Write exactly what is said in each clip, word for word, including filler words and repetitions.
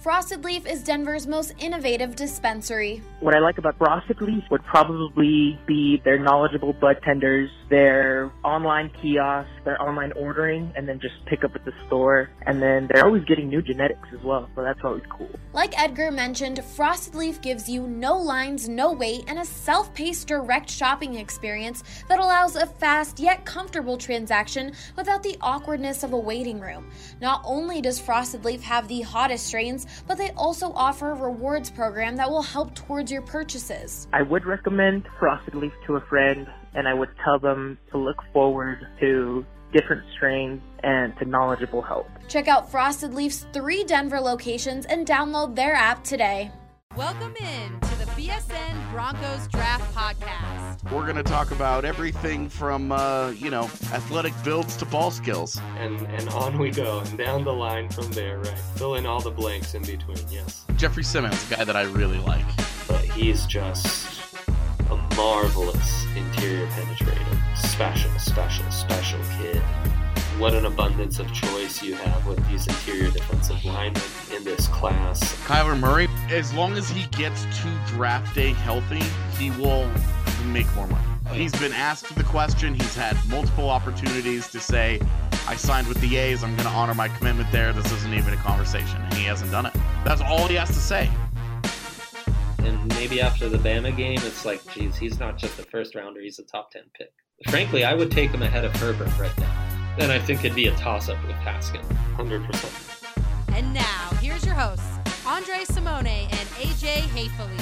Frosted Leaf is Denver's most innovative dispensary. What I like about Frosted Leaf would probably be their knowledgeable bud tenders, their online kiosks, their online ordering, and then just pick up at the store. And then they're always getting new genetics as well, so that's always cool. Like Edgar mentioned, Frosted Leaf gives you no lines, no wait, and a self-paced direct shopping experience that allows a fast yet comfortable transaction without the awkwardness of a waiting room. Not only does Frosted Leaf have the hottest strains, but they also offer a rewards program that will help towards your purchases. I would recommend Frosted Leaf to a friend, and I would tell them to look forward to different strains and to knowledgeable help. Check out Frosted Leaf's three Denver locations and download their app today. Welcome in to the B S N Broncos Draft Podcast. We're going to talk about everything from, uh, you know, athletic builds to ball skills. And and on we go, and down the line from there, right? Fill in all the blanks in between, yes. Jeffrey Simmons, a guy that I really like. But he's just a marvelous interior penetrator. Special, special, special kid. What an abundance of choice you have with these interior defensive linemen in this class. Kyler Murray, as long as he gets to draft day healthy, he will make more money. He's been asked the question. He's had multiple opportunities to say, I signed with the A's. I'm going to honor my commitment there. This isn't even a conversation. And he hasn't done it. That's all he has to say. And maybe after the Bama game, it's like, geez, he's not just a first rounder. He's a top ten pick. Frankly, I would take him ahead of Herbert right now. Then I think it'd be a toss-up with Haskins. one hundred percent. And now, here's your hosts, Andre Simone and A J Hayfley.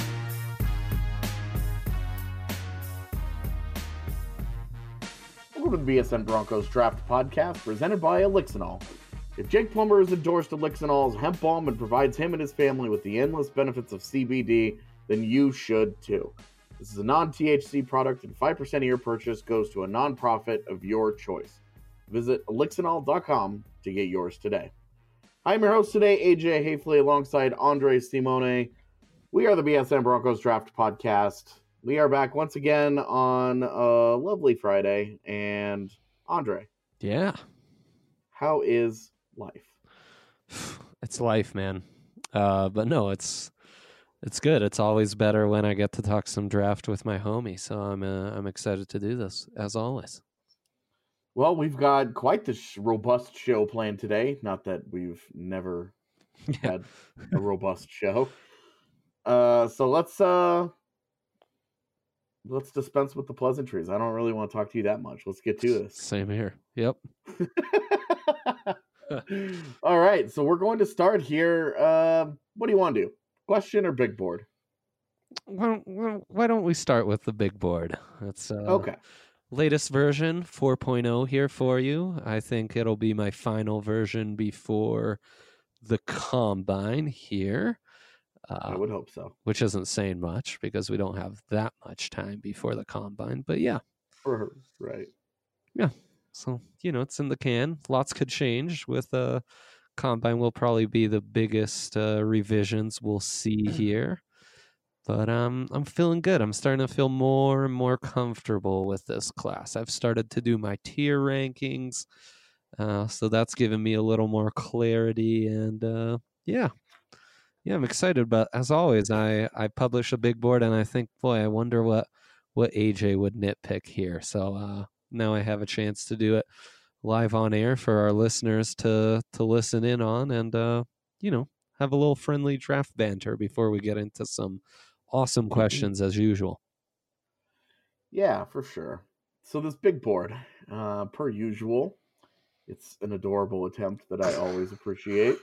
Welcome to the B S N Broncos Draft Podcast, presented by Elixinol. If Jake Plummer is endorsed Elixinol's hemp balm and provides him and his family with the endless benefits of C B D, then you should too. This is a non-T H C product, and five percent of your purchase goes to a nonprofit of your choice. Visit elixinol dot com to get yours today. I'm your host today, A J Hayfley, alongside Andre Simone. We are the B S N Broncos Draft Podcast. We are back once again on a lovely Friday. And Andre. Yeah. How is life? It's life, man. Uh, but no, it's it's good. It's always better when I get to talk some draft with my homie. So I'm uh, I'm excited to do this, as always. Well, we've got quite the sh- robust show planned today. Not that we've never yeah. had a robust show. Uh, so let's uh, let's dispense with the pleasantries. I don't really want to talk to you that much. Let's get to this. Same here. Yep. All right. So we're going to start here. Uh, what do you want to do? Question or big board? Why don't, why don't we start with the big board? That's uh, okay. Latest version, four point oh here for you. I think it'll be my final version before the Combine here. Uh, I would hope so. Which isn't saying much because we don't have that much time before the Combine. But yeah. For her, right. Yeah. So, you know, it's in the can. Lots could change with uh, Combine will probably be the biggest uh, revisions we'll see here. But um, I'm feeling good. I'm starting to feel more and more comfortable with this class. I've started to do my tier rankings, uh, so that's given me a little more clarity. And uh, yeah, yeah, I'm excited. But as always, I, I publish a big board, and I think, boy, I wonder what what A J would nitpick here. So uh, now I have a chance to do it live on air for our listeners to to listen in on, and uh, you know, have a little friendly draft banter before we get into some awesome questions as usual. Yeah, for sure. So this big board, uh, per usual, it's an adorable attempt that I always appreciate.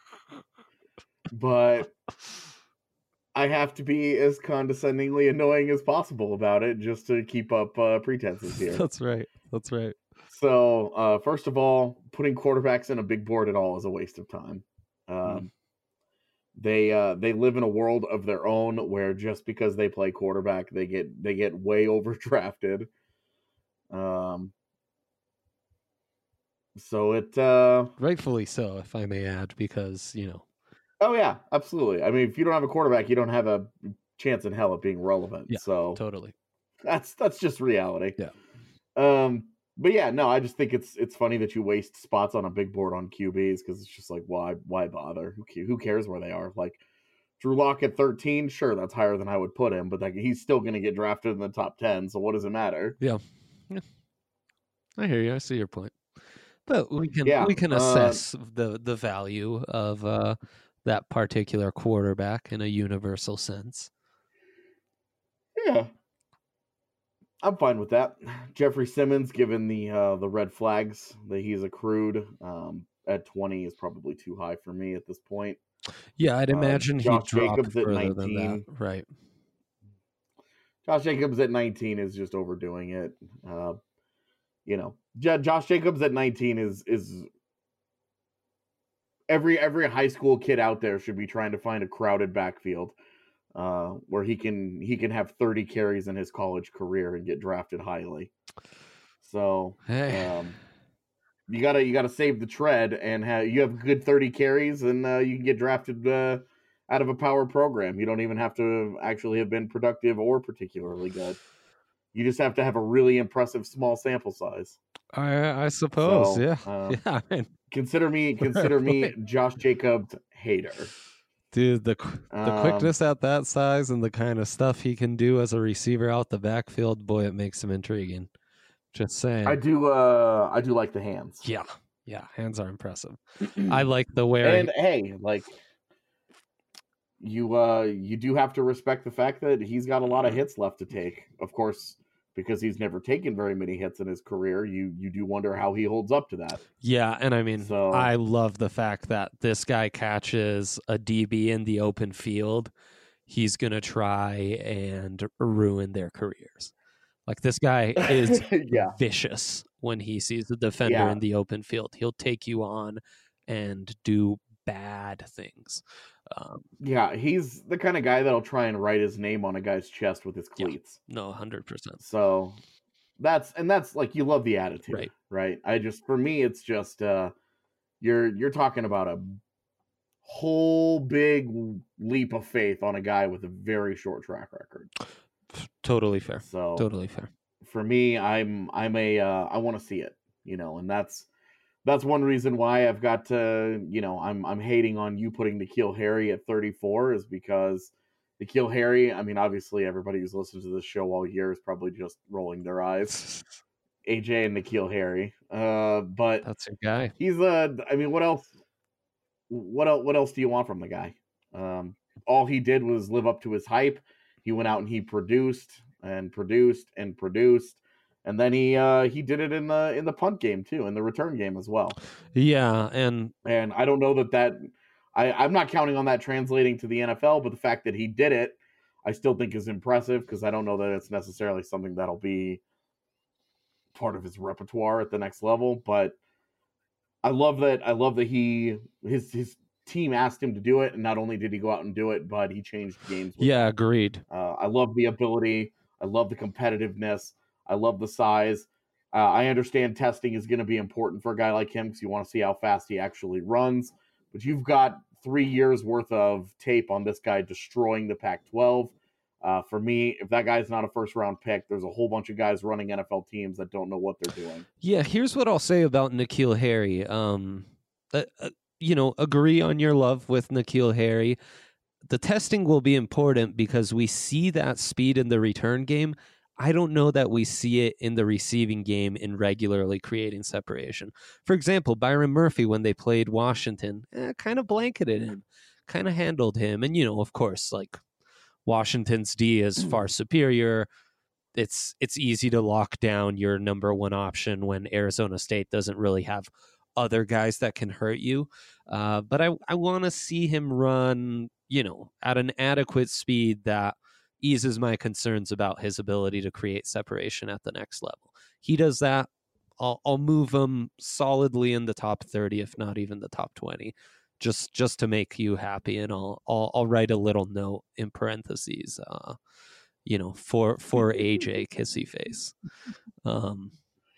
But I have to be as condescendingly annoying as possible about it just to keep up uh, pretenses here. That's right. That's right. So, uh, first of all, putting quarterbacks in a big board at all is a waste of time. Um, mm. They uh, they live in a world of their own where just because they play quarterback, they get they get way overdrafted. Um, so it uh, rightfully so, if I may add, because you know. Oh yeah, absolutely. I mean, if you don't have a quarterback, you don't have a chance in hell of being relevant. Yeah, so totally. That's that's just reality. Yeah. Um. but yeah, no, I just think it's it's funny that you waste spots on a big board on Q Bs because it's just like, why why bother? Who ca- who cares where they are? Like Drew Lock at thirteen, sure, that's higher than I would put him, but like he's still going to get drafted in the top ten. So what does it matter? Yeah. yeah. I hear you. I see your point. But we can Yeah, we can uh, assess the the value of uh, that particular quarterback in a universal sense. Yeah, I'm fine with that. Jeffrey Simmons, given the uh, the red flags that he's accrued um, at twenty, is probably too high for me at this point. Yeah, I'd Uh, imagine he Josh dropped Jacobs at further than nineteen. that. Right. Josh Jacobs at nineteen is just overdoing it. Uh, you know, J- Josh Jacobs at nineteen is is every every high school kid out there should be trying to find a crowded backfield uh, where he can he can have thirty carries in his college career and get drafted highly. So Hey. um, you gotta you gotta save the tread and have you have good thirty carries and uh, you can get drafted uh, out of a power program. You don't even have to actually have been productive or particularly good. You just have to have a really impressive small sample size. I I suppose. So, yeah. um, yeah. I mean, Consider me consider me Josh Jacobs hater. dude, the qu- the Um, quickness at that size and the kind of stuff he can do as a receiver out the backfield, boy, it makes him intriguing. Just saying. I do uh I do like the hands. Yeah. Yeah. Hands are impressive. I like the wearing. And hey, like you uh you do have to respect the fact that he's got a lot of hits left to take. Of course, because he's never taken very many hits in his career, you you do wonder how he holds up to that. Yeah, and I mean, So- I love the fact that this guy catches a D B in the open field. He's going to try and ruin their careers. Like, this guy is Yeah. vicious when he sees the defender Yeah. in the open field. He'll take you on and do bad things. Um, Yeah, he's the kind of guy that'll try and write his name on a guy's chest with his Yeah. cleats. no, one hundred percent. So that's and that's like you love the attitude, Right. right? I just for me it's just uh you're you're talking about a whole big leap of faith on a guy with a very short track record. Totally fair. So Totally fair. for me, I'm I'm a uh, I want to see it, you know, and that's that's one reason why I've got to, you know, I'm I'm hating on you putting N'Keal Harry at thirty-four is because N'Keal Harry, I mean, obviously everybody who's listened to this show all year is probably just rolling their eyes. A J and N'Keal Harry, uh, but That's your guy. he's a. I mean, what else? What else? What else do you want from the guy? Um, all he did was live up to his hype. He went out and he produced and produced and produced, and then he uh, he did it in the in the punt game too, in the return game as well. Yeah, and And I don't know that that I I'm not counting on that translating to the N F L, but the fact that he did it, I still think is impressive because I don't know that it's necessarily something that'll be part of his repertoire at the next level, but I love that. I love that he his his team asked him to do it, and not only did he go out and do it, but he changed games. With yeah, it. agreed. Uh, I love the ability. I love the competitiveness. I love the size. Uh, I understand testing is going to be important for a guy like him because you want to see how fast he actually runs. But you've got three years worth of tape on this guy destroying the Pac twelve. Uh, for me, if that guy's not a first round pick, there's a whole bunch of guys running N F L teams that don't know what they're doing. Yeah, here's what I'll say about N'Keal Harry. Um, uh, uh, you know, agree on your love with N'Keal Harry. The testing will be important because we see that speed in the return game. I don't know that we see it in the receiving game in regularly creating separation. For example, Byron Murphy, when they played Washington, eh, kind of blanketed him, kind of handled him. And, you know, of course, like, Washington's D is far superior. It's it's easy to lock down your number one option when Arizona State doesn't really have other guys that can hurt you. Uh, but I, I want to see him run, you know, at an adequate speed that eases my concerns about his ability to create separation at the next level. He does that, I'll, I'll move him solidly in the top thirty, if not even the top twenty. Just just to make you happy, and I'll I'll, I'll write a little note in parentheses, uh, you know, for for A J Kissy Face. Um,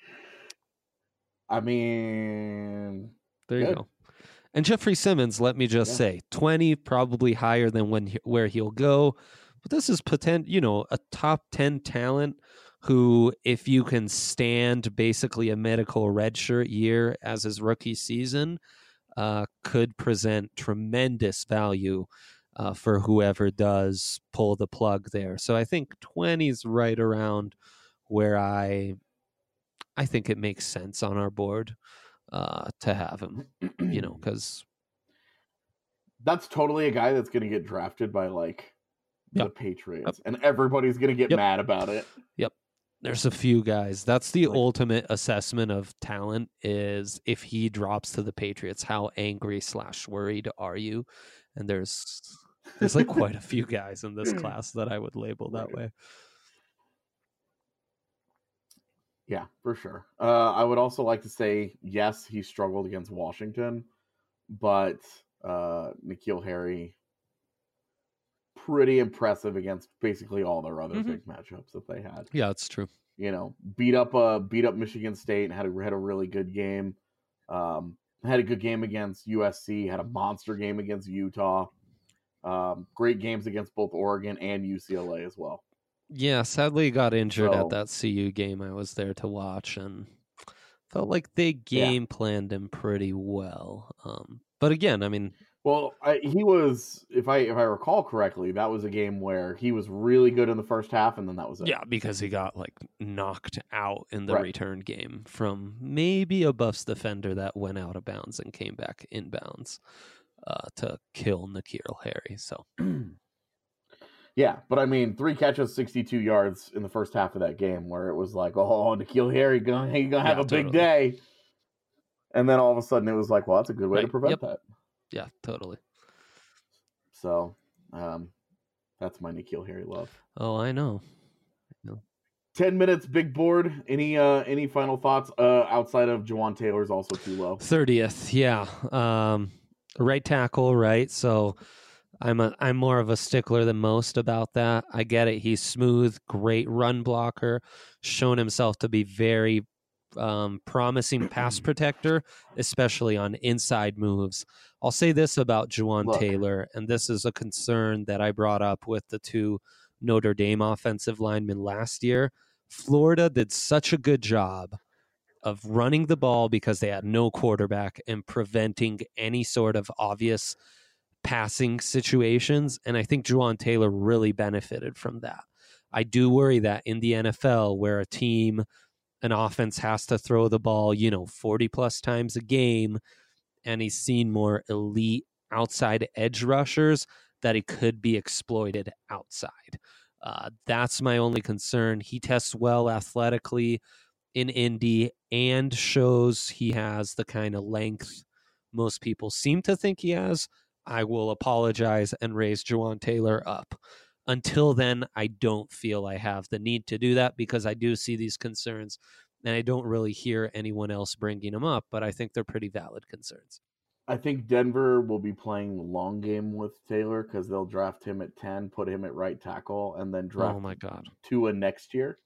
I mean, there you good. go. And Jeffrey Simmons, let me just Yeah. say, twenty probably higher than when he, where he'll go, but this is potent, you know, a top ten talent who, if you can stand basically a medical redshirt year as his rookie season, uh, could present tremendous value uh, for whoever does pull the plug there. So I think twenty is right around where I I think it makes sense on our board uh, to have him, you know, because that's totally a guy that's going to get drafted by like Yep. the Patriots, Yep. and everybody's going to get Yep. mad about it. Yep. There's a few guys. That's the Like- ultimate assessment of talent is if he drops to the Patriots, how angry slash worried are you? And there's there's like quite a few guys in this class that I would label that way. Yeah, for sure. Uh, I would also like to say, yes, he struggled against Washington, but uh, N'Keal Harry, pretty impressive against basically all their other Mhm. big matchups that they had. Yeah, it's true. You know, beat up uh, beat up Michigan State and had a, had a really good game. Um, had a good game against U S C, had a monster game against Utah. Um, great games against both Oregon and U C L A as well. Yeah, sadly he got injured So- at that C U game I was there to watch, and felt like they game planned him pretty well. Um, but again, I mean, Well, I, he was, if I if I recall correctly, that was a game where he was really good in the first half, and then that was it. yeah, because he got like knocked out in the Right. return game from maybe a Buffs defender that went out of bounds and came back inbounds uh, to kill N'Keal Harry. So Yeah, but I mean, three catches, sixty-two yards in the first half of that game, where it was like, oh, N'Keal Harry, gonna, he gonna have Yeah, a big totally. day. And then all of a sudden, it was like, well, that's a good way to Right, prevent yep. that. yeah, totally. So, um, that's my N'Keal Harry love. Oh, I know. Ten minutes, big board. Any uh, any final thoughts uh, outside of Jawan Taylor's also too low? thirtieth, yeah. Um, right tackle, right? So I'm a I'm more of a stickler than most about that. I get it. He's smooth, great run blocker, shown himself to be very um, promising pass protector, especially on inside moves. I'll say this about Juwan Look. Taylor, and this is a concern that I brought up with the two Notre Dame offensive linemen last year. Florida did such a good job of running the ball because they had no quarterback and preventing any sort of obvious passing situations. And I think Juwan Taylor really benefited from that. I do worry that in the N F L, where a team, an offense has to throw the ball, you know, forty plus times a game, and he's seen more elite outside edge rushers, that he could be exploited outside. Uh, that's my only concern. He tests well athletically in Indy and shows he has the kind of length most people seem to think he has. I will apologize and raise Juwan Taylor up. Until then, I don't feel I have the need to do that because I do see these concerns and I don't really hear anyone else bringing them up, but I think they're pretty valid concerns. I think Denver will be playing the long game with Taylor because they'll draft him at ten, put him at right tackle, and then draft Oh my God. Tua next year.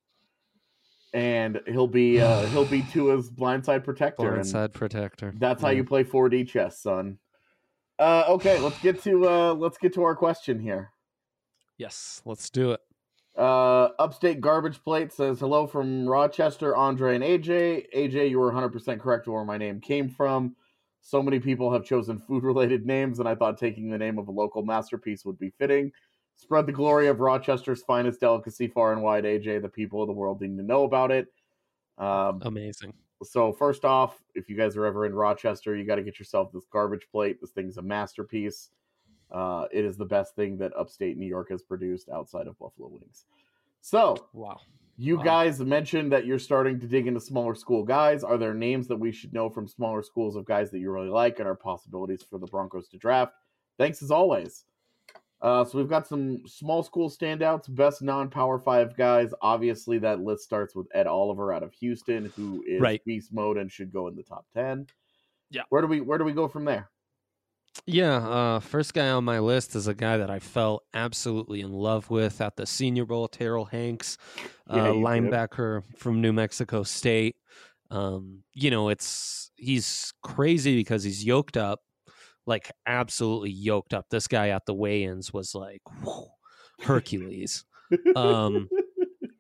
And he'll be uh, he'll be Tua's blindside protector. and Blindside protector. That's how Yeah. you play four D chess, son. Uh, okay, let's get to uh, let's get to our question here. Yes, let's do it. Uh, Upstate Garbage Plate says, hello from Rochester, Andre and A J. A J, you were one hundred percent correct where my name came from. So many people have chosen food-related names, and I thought taking the name of a local masterpiece would be fitting. Spread the glory of Rochester's finest delicacy far and wide, A J. The people of the world need to know about it. Um, Amazing. So first off, if you guys are ever in Rochester, you got to get yourself this garbage plate. This thing's a masterpiece. Uh, it is the best thing that upstate New York has produced outside of Buffalo Wings. So Wow. you Wow. guys mentioned that you're starting to dig into smaller school guys. Are there names that we should know from smaller schools of guys that you really like and are possibilities for the Broncos to draft? Thanks as always. Uh, so we've got some small school standouts, best non-power five guys. Obviously, that list starts with Ed Oliver out of Houston, who is Right. beast mode and should go in the top ten. Yeah. Where do we Where do we go from there? Yeah, uh, first guy on my list is a guy that I fell absolutely in love with at the Senior Bowl, Terrell Hanks, uh, Yeah, you did. linebacker from New Mexico State. Um, you know, it's he's crazy because he's yoked up, like absolutely yoked up. This guy at the weigh-ins was like whew, Hercules. um,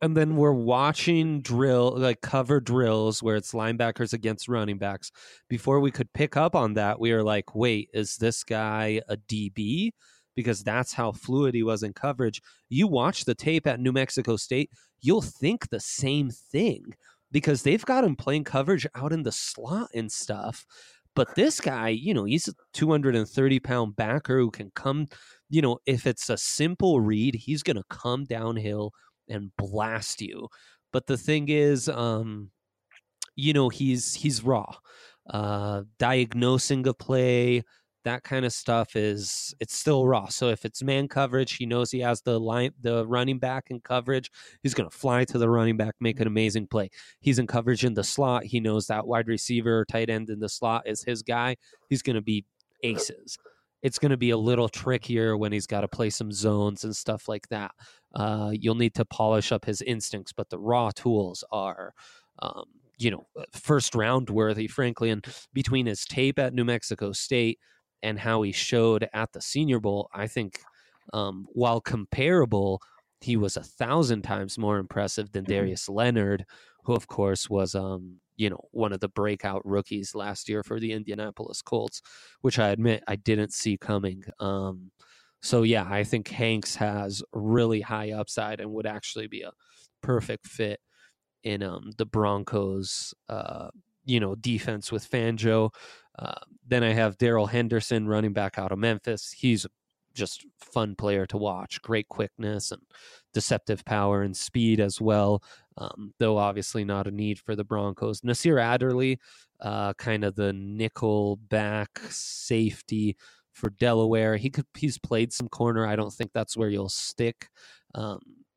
And then we're watching drill, like cover drills where it's linebackers against running backs. Before we could pick up on that, we were like, wait, is this guy a D B? Because that's how fluid he was in coverage. You watch the tape at New Mexico State, you'll think the same thing because they've got him playing coverage out in the slot and stuff. But this guy, you know, he's a two hundred thirty pound backer who can come, you know, if it's a simple read, he's going to come downhill and blast you. But the thing is, um, you know, he's he's raw. Uh, diagnosing a play, that kind of stuff is it's still raw. So if it's man coverage, he knows he has the line, the running back in coverage. He's going to fly to the running back, make an amazing play. He's in coverage in the slot. He knows that wide receiver, tight end in the slot is his guy. He's going to be aces. It's going to be a little trickier when he's got to play some zones and stuff like that. Uh, you'll need to polish up his instincts, but the raw tools are, um, you know, first round worthy, frankly. And between his tape at New Mexico State and how he showed at the Senior Bowl, I think um, while comparable, he was a thousand times more impressive than Darius Leonard, who, of course, was, um, you know, one of the breakout rookies last year for the Indianapolis Colts, which I admit I didn't see coming. Um, so, yeah, I think Hanks has really high upside and would actually be a perfect fit in um, the Broncos, uh, you know, defense with Fangio. Uh, then I have Darrell Henderson, running back out of Memphis. He's just fun player to watch. Great quickness and deceptive power and speed as well, um, though obviously not a need for the Broncos. Nasir Adderley, uh, kind of the nickel back safety for Delaware. He could he's played some corner. I don't think that's where you'll stick. Um,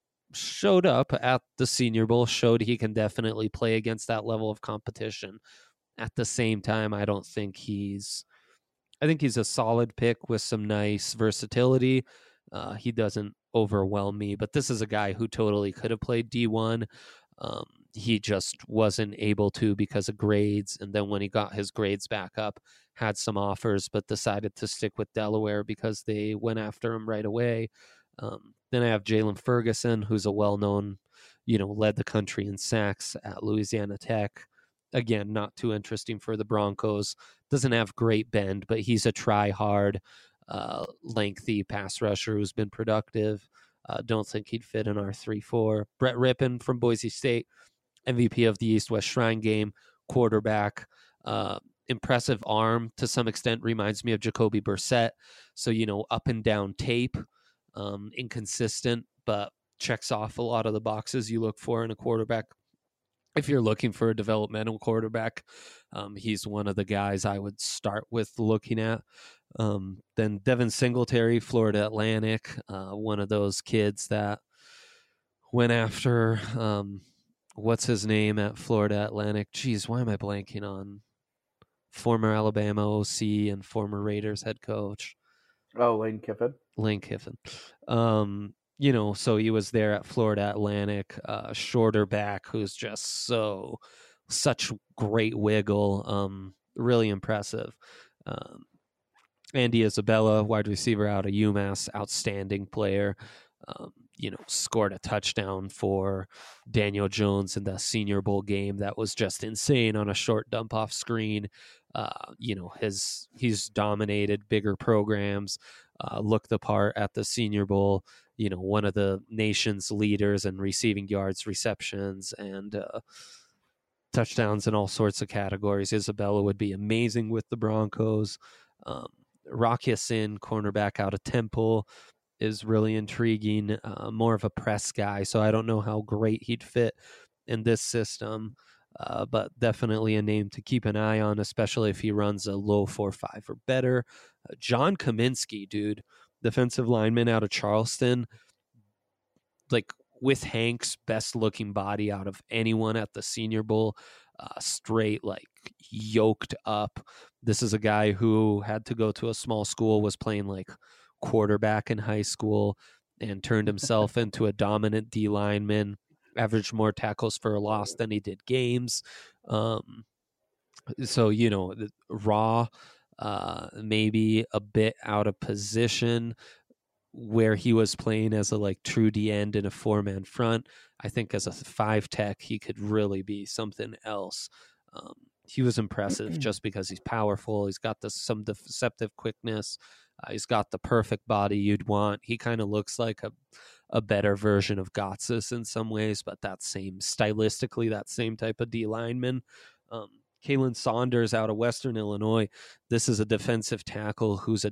showed up at the Senior Bowl, showed he can definitely play against that level of competition. At the same time, I don't think he's I think he's a solid pick with some nice versatility. Uh, he doesn't overwhelm me, but this is a guy who totally could have played D one. Um, he just wasn't able to because of grades. And then when he got his grades back up, had some offers, but decided to stick with Delaware because they went after him right away. Um, then I have Jalen Ferguson, who's a well-known, you know, led the country in sacks at Louisiana Tech. Again, not too interesting for the Broncos. Doesn't have great bend, but he's a try-hard, uh, lengthy pass rusher who's been productive. Uh, don't think he'd fit in our three four. Brett Rippon from Boise State, M V P of the East-West Shrine Game, quarterback. Uh, impressive arm to some extent, reminds me of Jacoby Brissett. So, you know, up and down tape, um, inconsistent, but checks off a lot of the boxes you look for in a quarterback. If you're looking for a developmental quarterback, um, he's one of the guys I would start with looking at. Um, then Devin Singletary, Florida Atlantic, uh, one of those kids that went after, um, what's his name at Florida Atlantic? Geez, why am I blanking on former Alabama O C and former Raiders head coach? Oh, Lane Kiffin. Lane Kiffin. Um, you know, so he was there at Florida Atlantic, uh, shorter back who's just so, such great wiggle, um, really impressive. Um, Andy Isabella, wide receiver out of UMass, outstanding player, um, you know, scored a touchdown for Daniel Jones in the Senior Bowl game. That was just insane on a short dump off screen. Uh, you know, his, he's dominated bigger programs, uh, looked the part at the Senior Bowl. You know, one of the nation's leaders in receiving yards, receptions, and uh, touchdowns in all sorts of categories. Isabella would be amazing with the Broncos. Um, Rock Ya-Sin, cornerback out of Temple, is really intriguing. Uh, more of a press guy, so I don't know how great he'd fit in this system, uh, but definitely a name to keep an eye on, especially if he runs a low four five or better. Uh, John Kaminsky, dude. Defensive lineman out of Charleston, like with Hank's best looking body out of anyone at the Senior Bowl, uh, straight, like yoked up. This is a guy who had to go to a small school, was playing like quarterback in high school and turned himself into a dominant D lineman, averaged more tackles for a loss than he did games. Um, so, you know, raw, Uh, maybe a bit out of position where he was playing as a like true D end in a four man front. I think as a five tech, he could really be something else. Um, he was impressive just because he's powerful. He's got this, some deceptive quickness. Uh, he's got the perfect body you'd want. He kind of looks like a, a better version of Gotsis in some ways, but that same, stylistically, that same type of D lineman. Um, Kalen Saunders out of Western Illinois. This is a defensive tackle who's a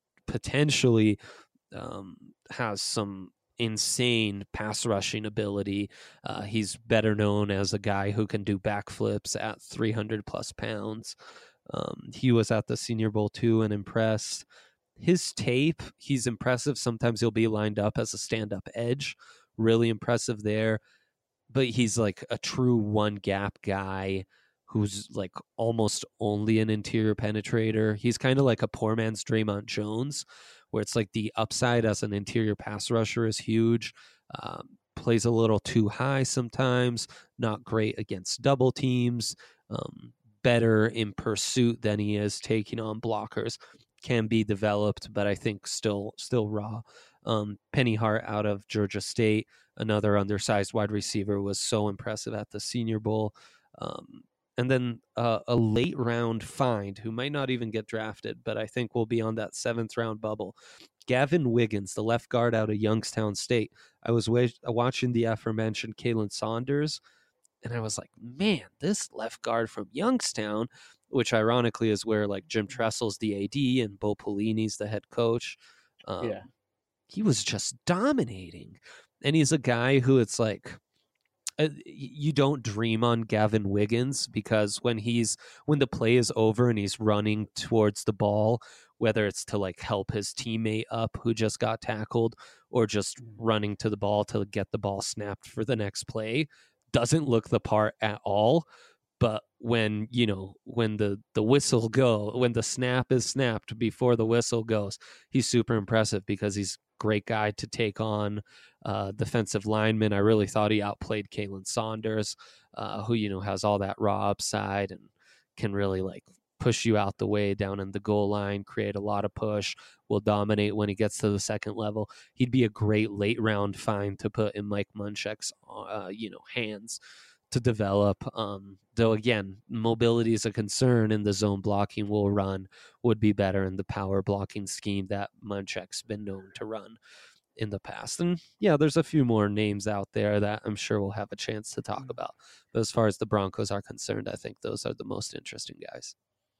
potentially um, has some insane pass rushing ability. Uh, he's better known as a guy who can do backflips at three hundred plus pounds. Um, he was at the Senior Bowl too and impressed. His tape, he's impressive. Sometimes he'll be lined up as a stand-up edge. Really impressive there. But he's like a true one-gap guy who's like almost only an interior penetrator. He's kind of like a poor man's Draymond Jones, where it's like the upside as an interior pass rusher is huge. Um, plays a little too high sometimes, not great against double teams, um, better in pursuit than he is taking on blockers. Can be developed, but I think still still raw. Um, Penny Hart out of Georgia State, another undersized wide receiver, was so impressive at the Senior Bowl. Um, and then uh, a late round find who might not even get drafted, but I think will be on that seventh round bubble. Gavin Wiggins, the left guard out of Youngstown State. I was wa- watching the aforementioned Kalen Saunders, and I was like, man, this left guard from Youngstown, which ironically is where like Jim Tressel's the A D and Bo Pelini's the head coach. Um, Yeah. He was just dominating. And he's a guy who it's like, uh, you don't dream on Gavin Wiggins because when he's, when the play is over and he's running towards the ball, whether it's to like help his teammate up who just got tackled or just running to the ball to get the ball snapped for the next play, doesn't look the part at all. But when, you know, when the, the whistle go, when the snap is snapped before the whistle goes, he's super impressive because he's a great guy to take on uh, defensive linemen. I really thought he outplayed Kalen Saunders, uh, who, you know, has all that raw upside and can really like push you out the way down in the goal line, create a lot of push, will dominate when he gets to the second level. He'd be a great late round find to put in Mike Munchak's, uh, you know, hands to develop. Um, though again, mobility is a concern, and the zone blocking will run would be better in the power blocking scheme that Munchak's been known to run in the past. And yeah, there's a few more names out there that I'm sure we'll have a chance to talk about. But as far as the Broncos are concerned, I think those are the most interesting guys.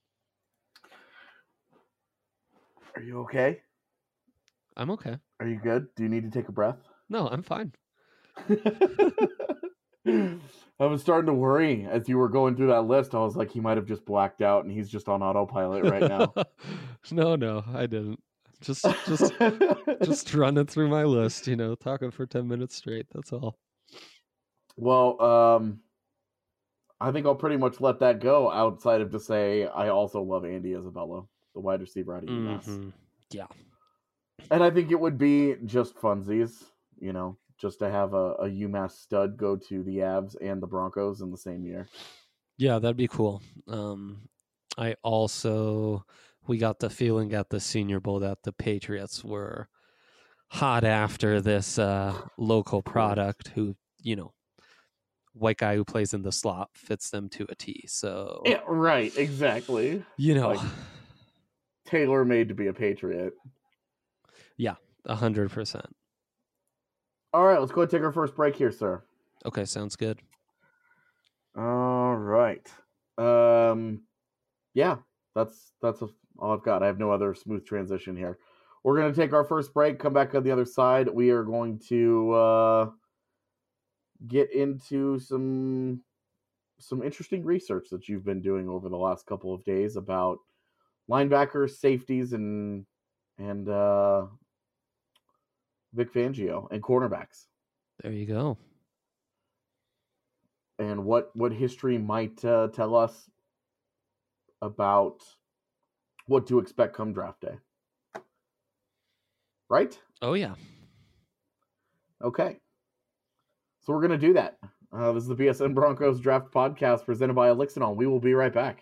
Are you okay? I'm okay. Are you good? Do you need to take a breath? No, I'm fine. I was starting to worry as you were going through that list. I was like, he might have just blacked out and he's just on autopilot right now. no, no, I didn't. Just, just, just running through my list, you know, talking for ten minutes straight. That's all. Well, um, I think I'll pretty much let that go outside of to say I also love Andy Isabella, the wide receiver out of UMass. Mm-hmm. Yeah. And I think it would be just funsies, you know, just to have a, a UMass stud go to the Avs and the Broncos in the same year. Yeah, that'd be cool. Um, I also, we got the feeling at the Senior Bowl that the Patriots were hot after this uh, local product who, you know, white guy who plays in the slot fits them to a T. So Yeah, right, exactly. You know, like, tailor made to be a Patriot. Yeah, a hundred percent. All right, let's go and take our first break here, sir. Okay, sounds good. All right. Um, yeah, that's that's all I've got. I have no other smooth transition here. We're going to take our first break, come back on the other side. We are going to uh, get into some some interesting research that you've been doing over the last couple of days about linebackers, safeties, and and uh, Vic Fangio and cornerbacks. There you go. And what, what history might uh, tell us about what to expect come draft day. Right? Oh, yeah. Okay. So we're going to do that. Uh, this is the B S N Broncos Draft Podcast presented by Elixinol. We will be right back.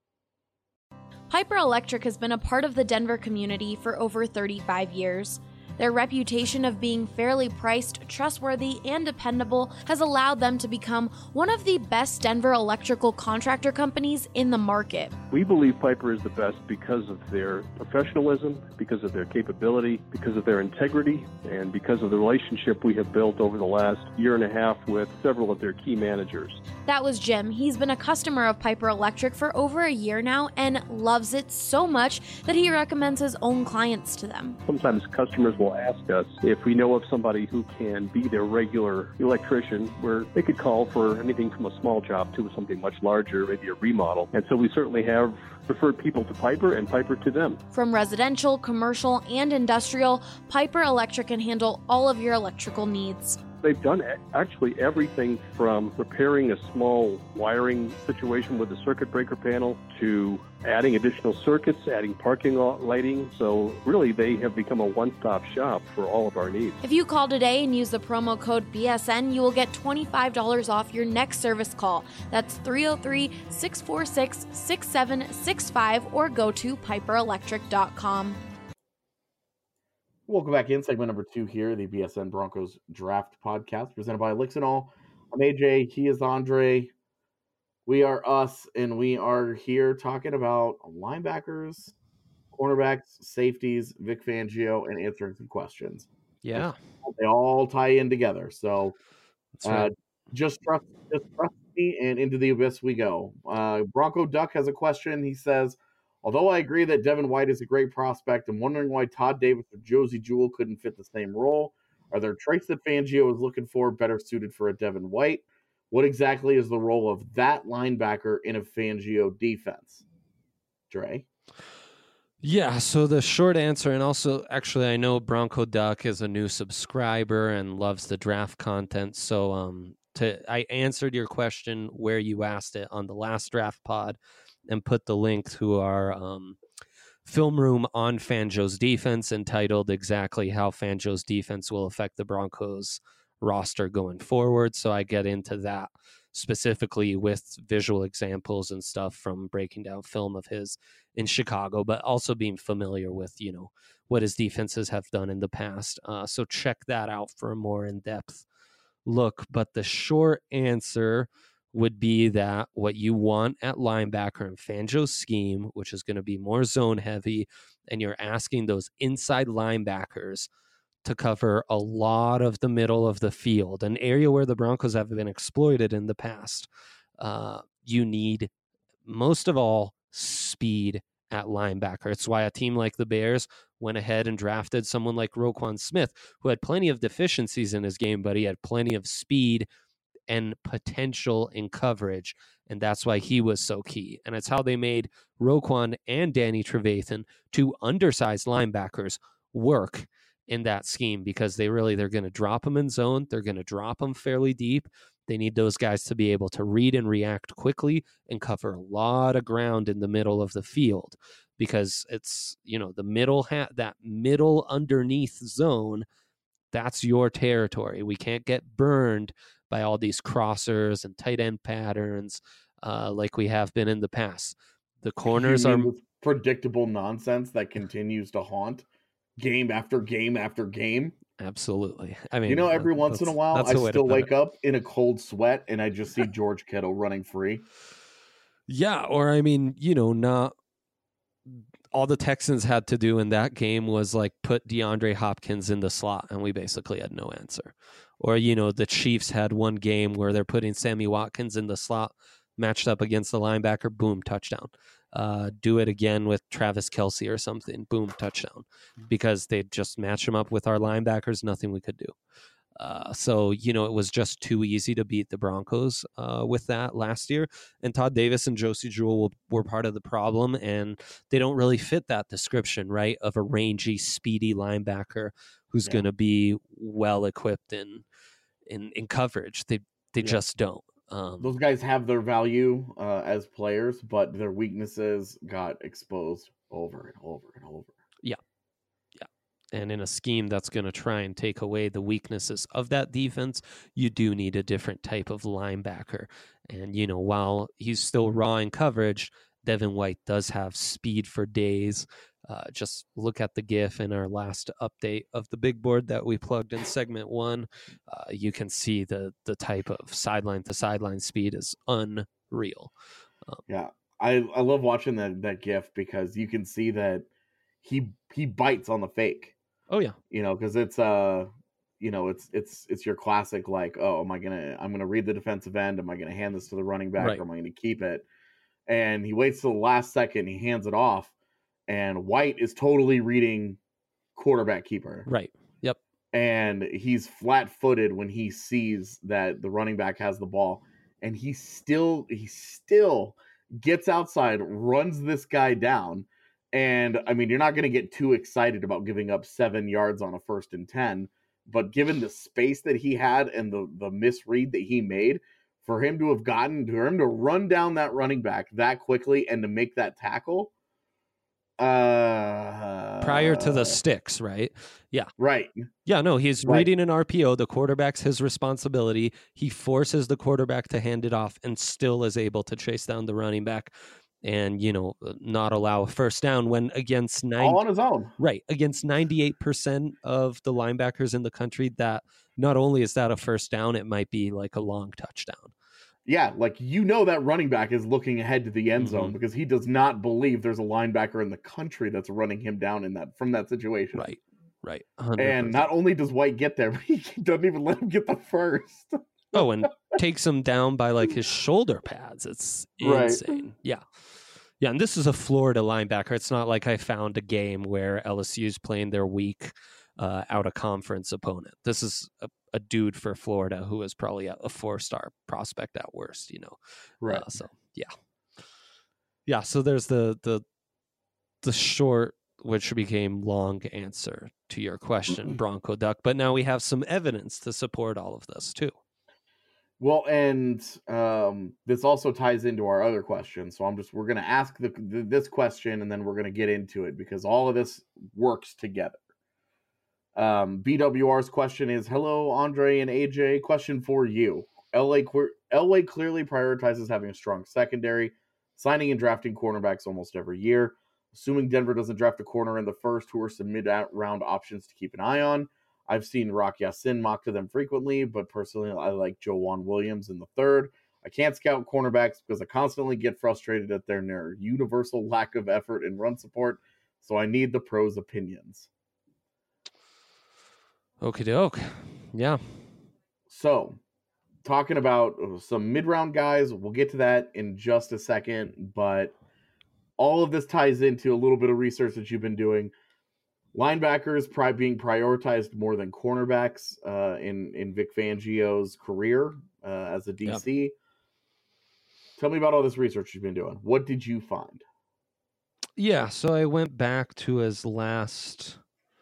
Piper Electric has been a part of the Denver community for over thirty-five years. Their reputation of being fairly priced, trustworthy, and dependable has allowed them to become one of the best Denver electrical contractor companies in the market. We believe Piper is the best because of their professionalism, because of their capability, because of their integrity, and because of the relationship we have built over the last year and a half with several of their key managers. That was Jim. He's been a customer of Piper Electric for over a year now and loves it so much that he recommends his own clients to them. Sometimes customers will ask us if we know of somebody who can be their regular electrician, where they could call for anything from a small job to something much larger, maybe a remodel. And so we certainly have referred people to Piper and Piper to them. From residential, commercial, and industrial, Piper Electric can handle all of your electrical needs. They've done actually everything from repairing a small wiring situation with a circuit breaker panel to adding additional circuits, adding parking lot lighting. So really, they have become a one-stop shop for all of our needs. If you call today and use the promo code B S N, you will get twenty-five dollars off your next service call. That's three oh three, six four six, six seven six five or go to piper electric dot com. Welcome back in segment number two here, the B S N Broncos Draft Podcast, presented by Elixinol. I'm A J. He is Andre. We are us, and we are here talking about linebackers, cornerbacks, safeties, Vic Fangio, and answering some questions. Yeah, they all tie in together. So, That's right. uh, just trust, just trust me, and into the abyss we go. Uh, Bronco Duck has a question. He says, although I agree that Devin White is a great prospect, I'm wondering why Todd Davis or Josie Jewell couldn't fit the same role. Are there traits that Fangio is looking for better suited for a Devin White? What exactly is the role of that linebacker in a Fangio defense? Dre? Yeah, so the short answer, and also actually I know Bronco Duck is a new subscriber and loves the draft content, so um, to I answered your question where you asked it on the last draft pod and put the link to our um, film room on Fangio's defense entitled exactly how Fangio's defense will affect the Broncos roster going forward. So I get into that specifically with visual examples and stuff from breaking down film of his in Chicago, but also being familiar with, you know, what his defenses have done in the past. Uh, so check that out for a more in-depth look. But the short answer would be that what you want at linebacker in Fangio's scheme, which is going to be more zone heavy, and you're asking those inside linebackers to cover a lot of the middle of the field, an area where the Broncos have been exploited in the past. Uh, you need, most of all, speed at linebacker. It's why a team like the Bears went ahead and drafted someone like Roquan Smith, who had plenty of deficiencies in his game, but he had plenty of speed and potential in coverage, and that's why he was so key. And it's how they made Roquan and Danny Trevathan, two undersized linebackers, work in that scheme, because they really, they're going to drop them in zone. They're going to drop them fairly deep. They need those guys to be able to read and react quickly and cover a lot of ground in the middle of the field, because it's, you know, the middle hat, that middle underneath zone, that's your territory. We can't get burned by all these crossers and tight end patterns uh, like we have been in the past. The corners are predictable nonsense that continues to haunt game after game after game. Absolutely. I mean, you know, every once in a while, I still wake up in a cold sweat and I just see George Kittle running free. Yeah, or I mean, you know, not all the Texans had to do in that game was like put DeAndre Hopkins in the slot, and we basically had no answer. Or, you know, the Chiefs had one game where they're putting Sammy Watkins in the slot, matched up against the linebacker, boom, touchdown. Uh, do it again with Travis Kelce or something, boom, touchdown. Because they just match him up with our linebackers, nothing we could do. Uh, so, you know, it was just too easy to beat the Broncos uh, with that last year. And Todd Davis and Josie Jewell were part of the problem, and they don't really fit that description, right, of a rangy, speedy linebacker who's yeah. going to be well-equipped in, in, in coverage. They, they yeah. just don't. Um, Those guys have their value uh, as players, but their weaknesses got exposed over and over and over. Yeah. And in a scheme that's going to try and take away the weaknesses of that defense, you do need a different type of linebacker. And, you know, while he's still raw in coverage, Devin White does have speed for days. Uh, just look at the GIF in our last update of the big board that we plugged in segment one. Uh, you can see the the type of sideline to sideline speed is unreal. Um, yeah, I, I love watching that that GIF because you can see that he he bites on the fake. Oh yeah, you know, because it's uh, you know, it's it's it's your classic like, oh, am I gonna I'm gonna read the defensive end? Am I gonna hand this to the running back? Right. Or am I gonna keep it? And he waits till the last second. He hands it off. And White is totally reading quarterback keeper. Right. Yep. And he's flat-footed when he sees that the running back has the ball. And he still he still gets outside, runs this guy down. And, I mean, you're not going to get too excited about giving up seven yards on a first and ten. But given the space that he had and the, the misread that he made, for him to have gotten, for him to run down that running back that quickly and to make that tackle, Uh, prior to the sticks, right? Yeah. Right. Yeah, no, he's Right. reading an R P O. The quarterback's his responsibility. He forces the quarterback to hand it off and still is able to chase down the running back and, you know, not allow a first down when against nine. All on his own. Right. Against ninety-eight percent of the linebackers in the country, that not only is that a first down, it might be like a long touchdown. Yeah, like, you know, that running back is looking ahead to the end zone Mhm. because he does not believe there's a linebacker in the country that's running him down in that from that situation. Right, right. one hundred percent. And not only does White get there, but he doesn't even let him get the first. Oh, and takes him down by like his shoulder pads. It's Right. insane. Yeah. Yeah, and this is a Florida linebacker. It's not like I found a game where L S U's playing their weak uh, out of conference opponent. This is a, a dude for Florida who is probably a, a four-star prospect at worst, you know. Right. Uh, so, yeah. Yeah, so there's the the the short, which became long answer to your question, Bronco Duck. But now we have some evidence to support all of this, too. Well, and um, this also ties into our other question. So I'm just we're going to ask the, the, this question, and then we're going to get into it because all of this works together. Um, B W R's question is, hello, Andre and A J. Question for you. L A, L A clearly prioritizes having a strong secondary, signing and drafting cornerbacks almost every year. Assuming Denver doesn't draft a corner in the first, who are some mid-round options to keep an eye on? I've seen Rock Ya-Sin mocked to them frequently, but personally I like Joejuan Williams in the third. I can't scout cornerbacks because I constantly get frustrated at their near universal lack of effort and run support, so I need the pros' opinions. Okie doke. Yeah. So, talking about some mid-round guys, we'll get to that in just a second, but all of this ties into a little bit of research that you've been doing. Linebackers pri- being prioritized more than cornerbacks uh, in, in Vic Fangio's career uh, as a D C. Yep. Tell me about all this research you've been doing. What did you find? Yeah, so I went back to his last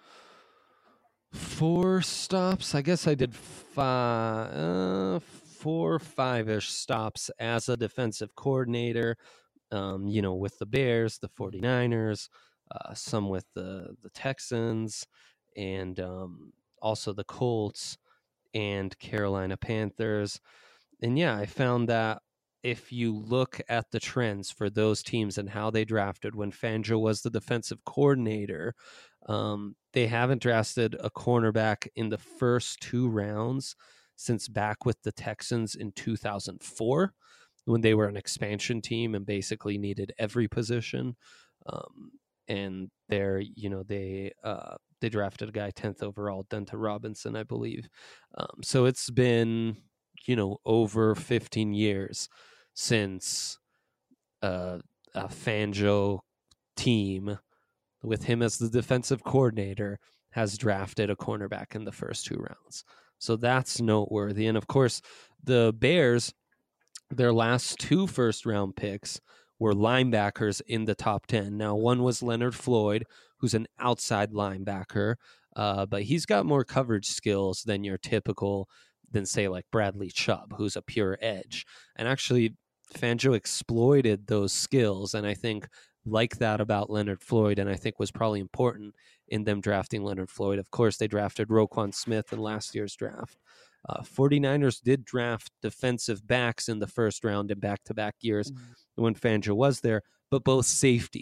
four stops. I guess I did five, uh, four, five-ish stops as a defensive coordinator, um, you know, with the Bears, the 49ers, uh, some with the, the Texans, and um, also the Colts and Carolina Panthers. And yeah, I found that if you look at the trends for those teams and how they drafted when Fangio was the defensive coordinator, um, they haven't drafted a cornerback in the first two rounds since back with the Texans in two thousand four, when they were an expansion team and basically needed every position. Um, and there, you know, they uh, they drafted a guy tenth overall, Denton Robinson, I believe. Um, so it's been, you know, over fifteen years since uh, a Fangio team with him as the defensive coordinator has drafted a cornerback in the first two rounds. So that's noteworthy. And of course, the Bears, their last two first round picks were linebackers in the top ten. Now, one was Leonard Floyd, who's an outside linebacker, uh, but he's got more coverage skills than your typical, than say like Bradley Chubb, who's a pure edge. And actually, Fangio exploited those skills, and I think like that about Leonard Floyd, and I think was probably important in them drafting Leonard Floyd. Of course, they drafted Roquan Smith in last year's draft. Uh, 49ers did draft defensive backs in the first round in back-to-back years mm-hmm. when Fangio was there, but both safeties,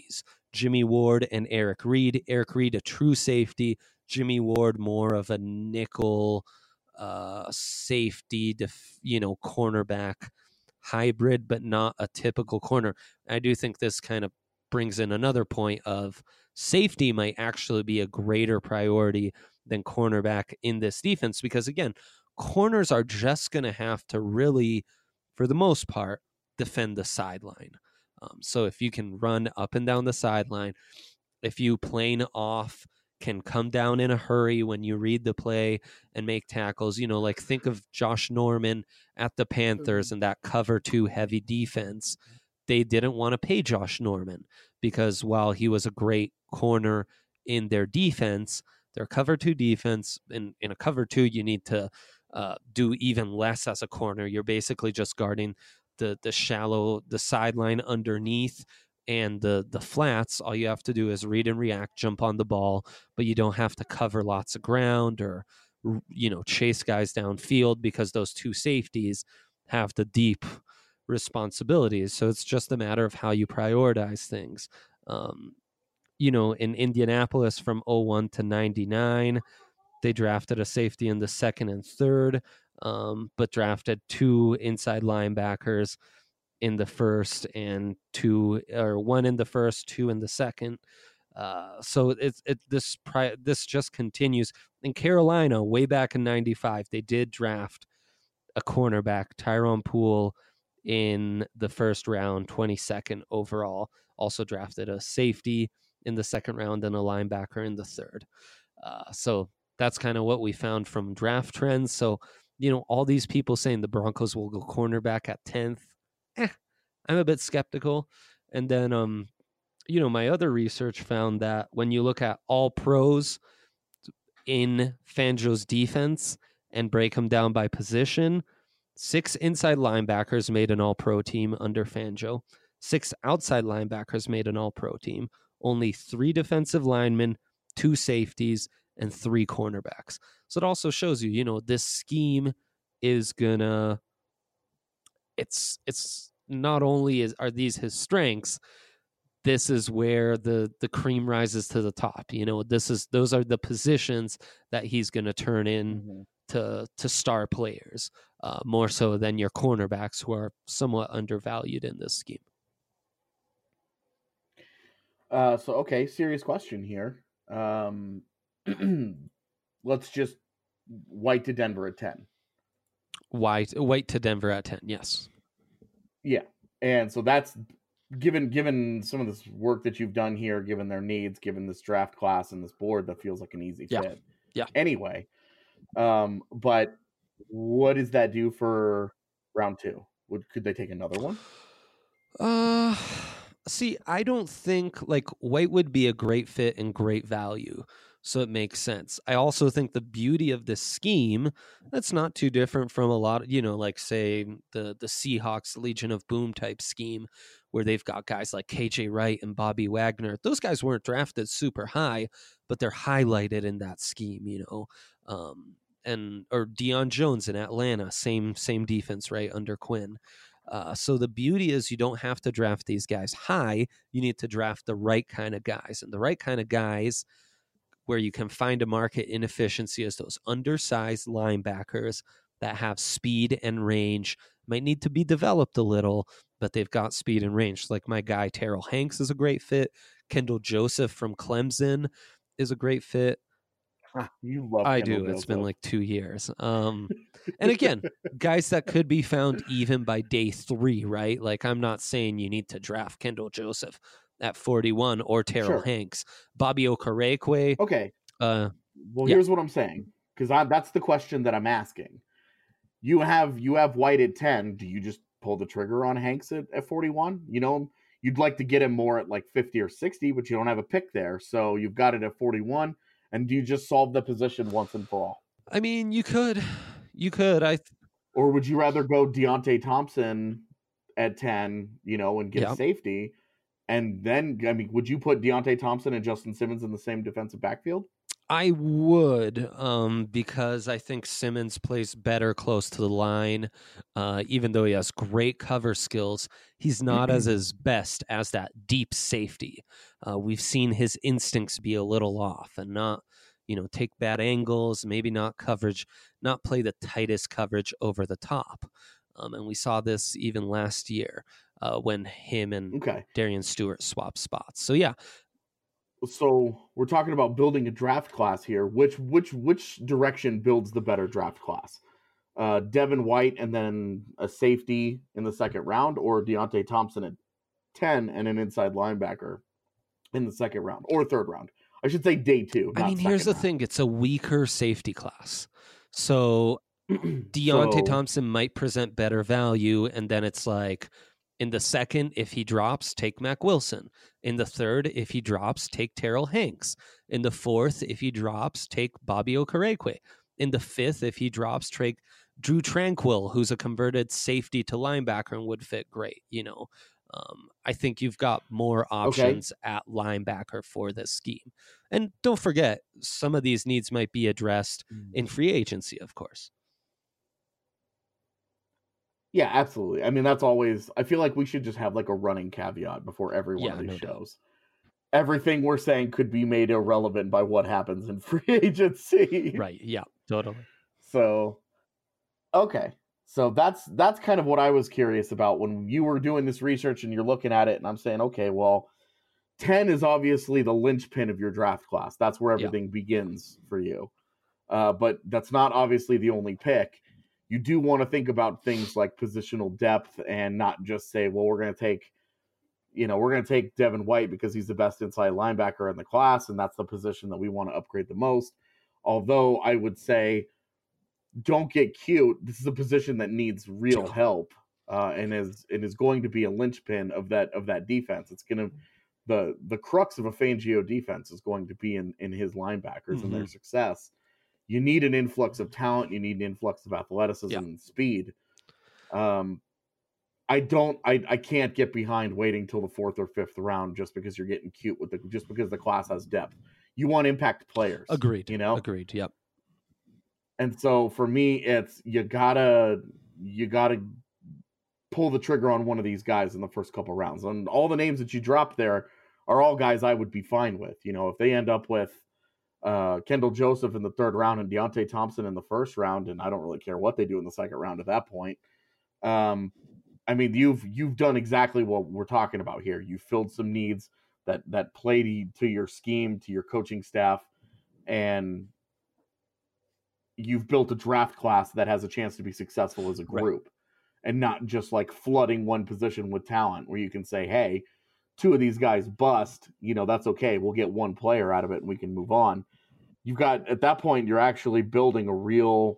Jimmy Ward and Eric Reed. Eric Reed, a true safety. Jimmy Ward, more of a nickel uh, safety, def, you know, cornerback hybrid, but not a typical corner. I do think this kind of brings in another point of safety might actually be a greater priority than cornerback in this defense, because again, corners are just going to have to really, for the most part, defend the sideline. Um, so if you can run up and down the sideline, if you plane off can come down in a hurry when you read the play and make tackles, you know, like think of Josh Norman at the Panthers and that cover two heavy defense. They didn't want to pay Josh Norman because while he was a great corner in their defense, their cover two defense, in, in a cover two, you need to uh, do even less as a corner. You're basically just guarding the the shallow, the sideline underneath and the the flats. All you have to do is read and react, jump on the ball, but you don't have to cover lots of ground or, you know, chase guys downfield because those two safeties have the deep responsibilities. So it's just a matter of how you prioritize things. Um, you know, in Indianapolis from oh one to ninety-nine, they drafted a safety in the second and third, um, but drafted two inside linebackers in the first and two, or one in the first, two in the second. Uh, so it's it this pri- this just continues. In Carolina, way back in ninety-five, they did draft a cornerback, Tyrone Poole, in the first round, twenty-second overall. Also drafted a safety in the second round and a linebacker in the third. Uh, so that's kind of what we found from draft trends. So, you know, all these people saying the Broncos will go cornerback at tenth. Eh, I'm a bit skeptical. And then, um, you know, my other research found that when you look at all pros in Fangio's defense and break them down by position, six inside linebackers made an all-pro team under Fangio. Six outside linebackers made an all-pro team. Only three defensive linemen, two safeties, and three cornerbacks. So it also shows you, you know, this scheme is gonna, it's, it's not only is, are these his strengths, this is where the, the cream rises to the top. You know, this is, those are the positions that he's going to turn in mm-hmm. to, to star players, uh, more so than your cornerbacks who are somewhat undervalued in this scheme. Uh, so, okay, serious question here. Um, let's just White to Denver at ten. White, White to Denver at ten, yes. Yeah, and so that's, given given some of this work that you've done here, given their needs, given this draft class and this board, that feels like an easy yeah. fit. Yeah. Anyway, um, but what does that do for round two? Would could they take another one? Uh, see, I don't think like White would be a great fit and great value, so it makes sense. I also think the beauty of this scheme, that's not too different from a lot of, you know, like say the the Seahawks Legion of Boom type scheme, where they've got guys like K J Wright and Bobby Wagner. Those guys weren't drafted super high, but they're highlighted in that scheme, you know. Um, and or Deion Jones in Atlanta, same same defense, right, under Quinn. Uh, so the beauty is you don't have to draft these guys high. You need to draft the right kind of guys, and the right kind of guys where you can find a market inefficiency is those undersized linebackers that have speed and range, might need to be developed a little, but they've got speed and range. Like my guy Terrell Hanks is a great fit. Kendall Joseph from Clemson is a great fit. You love I Kendall do. Joseph. It's been like two years. Um, and again, guys that could be found even by day three, right? Like I'm not saying you need to draft Kendall Joseph at forty-one or Terrell Sure. Hanks. Bobby Okereke. Okay. Uh, well, yeah. here's what I'm saying, because that's the question that I'm asking. You have you have White at ten. Do you just pull the trigger on Hanks at, at forty-one? You know, you'd like to get him more at like fifty or sixty, but you don't have a pick there. So you've got it at forty-one. And do you just solve the position once and for all? I mean, you could. You could. I. Th- or would you rather go Deontay Thompson at ten, you know, and get Yep. safety? And then, I mean, would you put Deontay Thompson and Justin Simmons in the same defensive backfield? I would, um, because I think Simmons plays better close to the line. Uh, even though he has great cover skills, he's not as his best as that deep safety. Uh, we've seen his instincts be a little off and not, you know, take bad angles, maybe not coverage, not play the tightest coverage over the top. Um, and we saw this even last year uh, when him and Okay. Darian Stewart swapped spots. So yeah, So we're talking about building a draft class here. Which which which direction builds the better draft class? Uh, Devin White and then a safety in the second round, or Deontay Thompson at ten and an inside linebacker in the second round or third round? I should say day two. I mean, here's the thing: it's a weaker safety class, so Deontay So- Thompson might present better value, and then it's like, in the second, if he drops, take Mac Wilson. In the third, if he drops, take Terrell Hanks. In the fourth, if he drops, take Bobby Okereke. In the fifth, if he drops, take Drew Tranquil, who's a converted safety to linebacker and would fit great. You know, um, I think you've got more options at linebacker for this scheme. And don't forget, some of these needs might be addressed in free agency, of course. Yeah, absolutely. I mean, that's always, I feel like we should just have like a running caveat before every one Yeah, of these no doubt. shows. Everything we're saying could be made irrelevant by what happens in free agency. Right. Yeah, totally. So, okay. So that's that's kind of what I was curious about when you were doing this research and you're looking at it, and I'm saying, okay, well, ten is obviously the linchpin of your draft class. That's where Yeah. everything begins for you. Uh, but that's not obviously the only pick. You do want to think about things like positional depth and not just say, well, we're going to take, you know, we're going to take Devin White because he's the best inside linebacker in the class, and that's the position that we want to upgrade the most. Although I would say, don't get cute. This is a position that needs real Yeah. help, uh, and is and is going to be a linchpin of that of that defense. It's going to the the crux of a Fangio defense is going to be in in his linebackers and their success. You need an influx of talent. You need an influx of athleticism Yeah. and speed. Um, I don't. I, I can't get behind waiting till the fourth or fifth round just because you're getting cute with the just because the class has depth. You want impact players. Agreed. You know. Agreed. Yep. And so for me, it's you gotta you gotta pull the trigger on one of these guys in the first couple rounds. And all the names that you drop there are all guys I would be fine with. You know, if they end up with uh, Kendall Joseph in the third round and Deontay Thompson in the first round, and I don't really care what they do in the second round at that point. Um, I mean, you've you've done exactly what we're talking about here. You filled some needs that that play to, to your scheme, to your coaching staff, and you've built a draft class that has a chance to be successful as a Right. group, and not just like flooding one position with talent where you can say, hey, two of these guys bust, you know, that's okay. We'll get one player out of it and we can move on. You've got, at that point, you're actually building a real,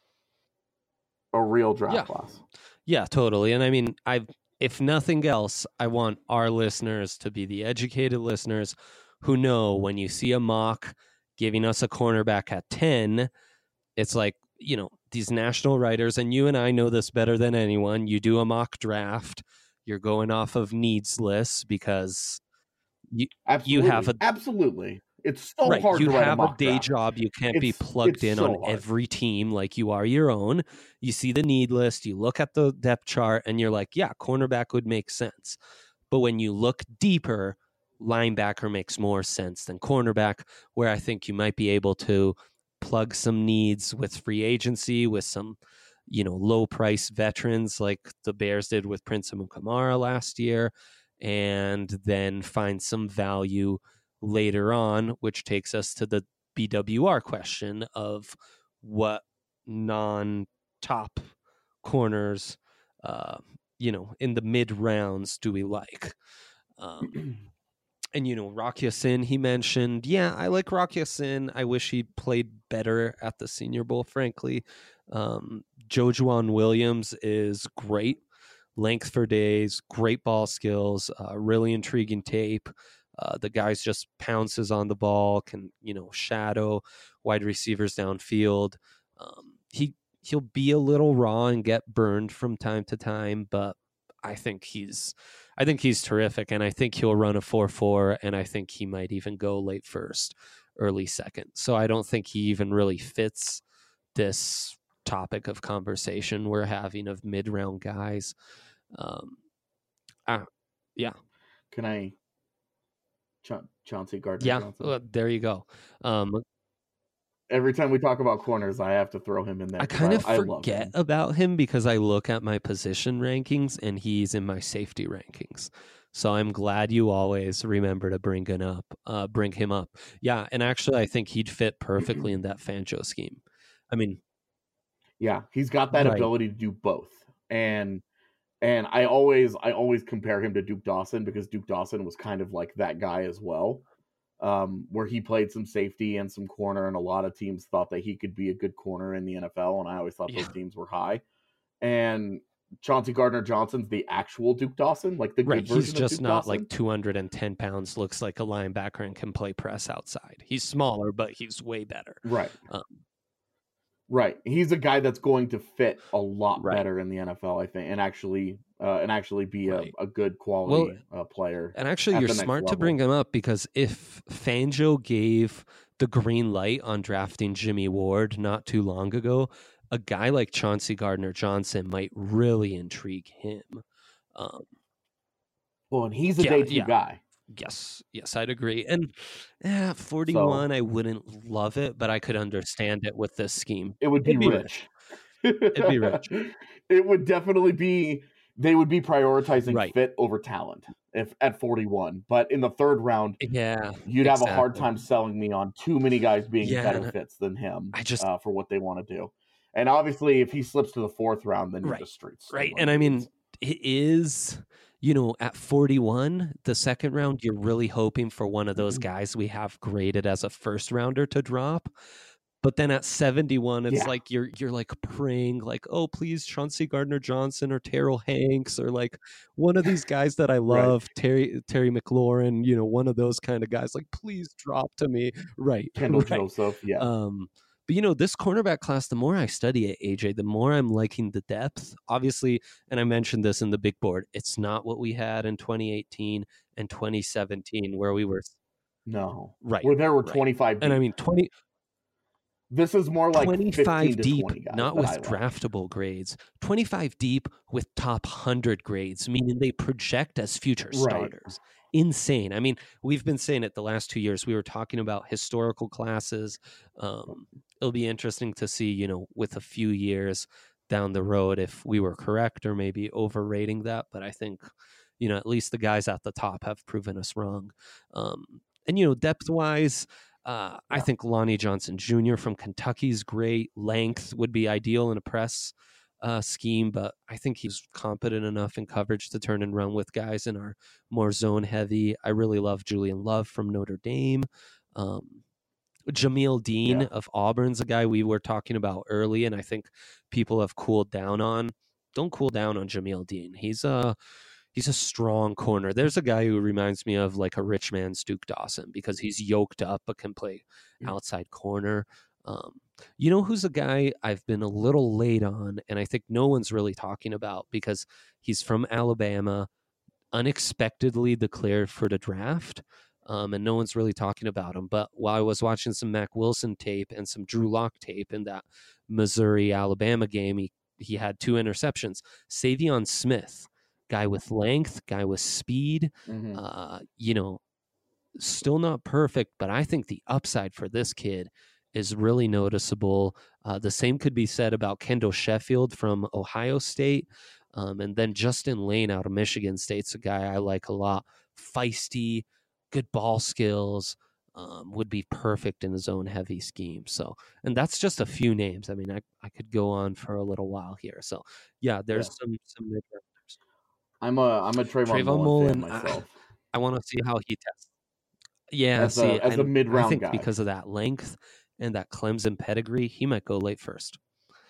a real draft Yeah. class. Yeah, totally. And I mean, I if nothing else, I want our listeners to be the educated listeners who know when you see a mock giving us a cornerback at ten, it's like, you know, these national writers, and you and I know this better than anyone. You do a mock draft, you're going off of needs lists because you Absolutely. have a- absolutely. It's so right, hard you to write have a a, mock day draft. job. You can't be It's- plugged it's in so on hard. every team like you are your own. You see the need list, you look at the depth chart, and you're like, yeah, cornerback would make sense. But when you look deeper, linebacker makes more sense than cornerback, where I think you might be able to plug some needs with free agency, with some, you know, low price veterans like the Bears did with Prince Amukamara last year, and then find some value later on, which takes us to the B W R question of what non-top corners, uh, you know, in the mid rounds do we like? Um, and, you know, Rock Ya-Sin, he mentioned, yeah, I like Rock Ya-Sin. I wish he played better at the Senior Bowl, frankly. Um, Jojuan Williams is great. Length for days, great ball skills, uh, really intriguing tape. Uh, the guy's just pounces on the ball, can, you know, shadow wide receivers downfield. Um, he, he'll be a little raw and get burned from time to time, but I think he's, I think he's terrific, and I think he'll run a four four, and I think he might even go late first, early second. So I don't think he even really fits this topic of conversation we're having of mid-round guys. Um, uh, yeah. Can I? Cha- Chauncey Gardner Yeah, Johnson. well, there you go. Um, Every time we talk about corners, I have to throw him in there. I 'cause kind of I love forget him. about him because I look at my position rankings and he's in my safety rankings. So I'm glad you always remember to bring him up. Uh, bring him up. Yeah, and actually, I think he'd fit perfectly in that Fangio scheme. I mean, Yeah, he's got that Right. ability to do both, and and I always I always compare him to Duke Dawson because Duke Dawson was kind of like that guy as well, um, where he played some safety and some corner, and a lot of teams thought that he could be a good corner in the N F L, and I always thought Yeah. those teams were high. And Chauncey Gardner Johnson's the actual Duke Dawson, like the right, good version he's of just Duke not Dawson. like two hundred ten pounds, looks like a linebacker, and can play press outside. He's smaller, but he's way better. Right. Um, Right. He's a guy that's going to fit a lot Right. better in the N F L, I think, and actually uh, and actually be Right. a, a good quality uh, player. And actually, at you're the next smart to level. bring him up because if Fangio gave the green light on drafting Jimmy Ward not too long ago, a guy like Chauncey Gardner Johnson might really intrigue him. Um, Well, and he's a yeah, day two yeah. guy. yes, yes, I'd agree. And eh, forty-one, I wouldn't love it, but I could understand it with this scheme. It would be, It'd be rich. It'd be rich. It would definitely be. They would be prioritizing Right. fit over talent if at forty-one. But in the third round, Yeah, you'd have a hard exactly. time selling me on too many guys being Yeah, better and fits than him. I just- uh, for what they want to do. And obviously, if he slips to the fourth round, then you're Right. just straight. Right. stealing And I mean, dudes. it is, you know, at forty-one, the second round, you're really hoping for one of those guys we have graded as a first rounder to drop. But then at seventy-one, it's Yeah. like you're you're like praying, like, oh, please, Chauncey Gardner Johnson or Terrell Hanks or like one of these guys that I Right. love, Terry Terry McLaurin, you know, one of those kind of guys. Like, please drop to me. Right. Kendall right. Joseph, yeah. Um, but you know, this cornerback class, the more I study it, A J, the more I'm liking the depth. Obviously, and I mentioned this in the big board, it's not what we had in twenty eighteen and twenty seventeen, where we were no. right. Where there were right. twenty-five deep. And I mean, twenty, This is more like twenty-five fifteen to deep, twenty guys not that with I like. draftable grades. twenty-five deep with top one hundred grades, meaning they project as future Right. starters. Insane. I mean, we've been saying it the last two years. We were talking about historical classes. Um, it'll be interesting to see, you know, with a few years down the road if we were correct or maybe overrating that. But I think, you know, at least the guys at the top have proven us wrong. Um, and, you know, depth wise, uh, I Yeah. think Lonnie Johnson Junior from Kentucky's great. Length would be ideal in a press uh, scheme, but I think he's competent enough in coverage to turn and run with guys in our more zone heavy. I really love Julian Love from Notre Dame. Um, Jameel Dean Yeah. of Auburn's a guy we were talking about early, and I think people have cooled down on. Don't cool down on Jameel Dean. He's a he's a strong corner. There's a guy who reminds me of like a rich man's Duke Dawson because he's yoked up but can play Mm. outside corner. Um, you know who's a guy I've been a little late on, and I think no one's really talking about because he's from Alabama, unexpectedly declared for the draft. Um, and no one's really talking about him. But while I was watching some Mac Wilson tape and some Drew Lock tape in that Missouri-Alabama game, he, he had two interceptions. Savion Smith, guy with length, guy with speed, Mhm. uh, you know, still not perfect, but I think the upside for this kid is really noticeable. Uh, the same could be said about Kendall Sheffield from Ohio State. Um, and then Justin Lane out of Michigan State's a guy I like a lot. Feisty, good ball skills, um, would be perfect in his own heavy scheme. So, and that's just a few names. I mean, I, I could go on for a little while here. So, yeah, there's Yeah. some some mid-rounders. I'm a I'm a Trayvon, Trayvon Mullen, Mullen, fan I- myself. I want to see how he tests. Yeah, As a- see, as a and mid-round I think guy. because of that length and that Clemson pedigree, he might go late first.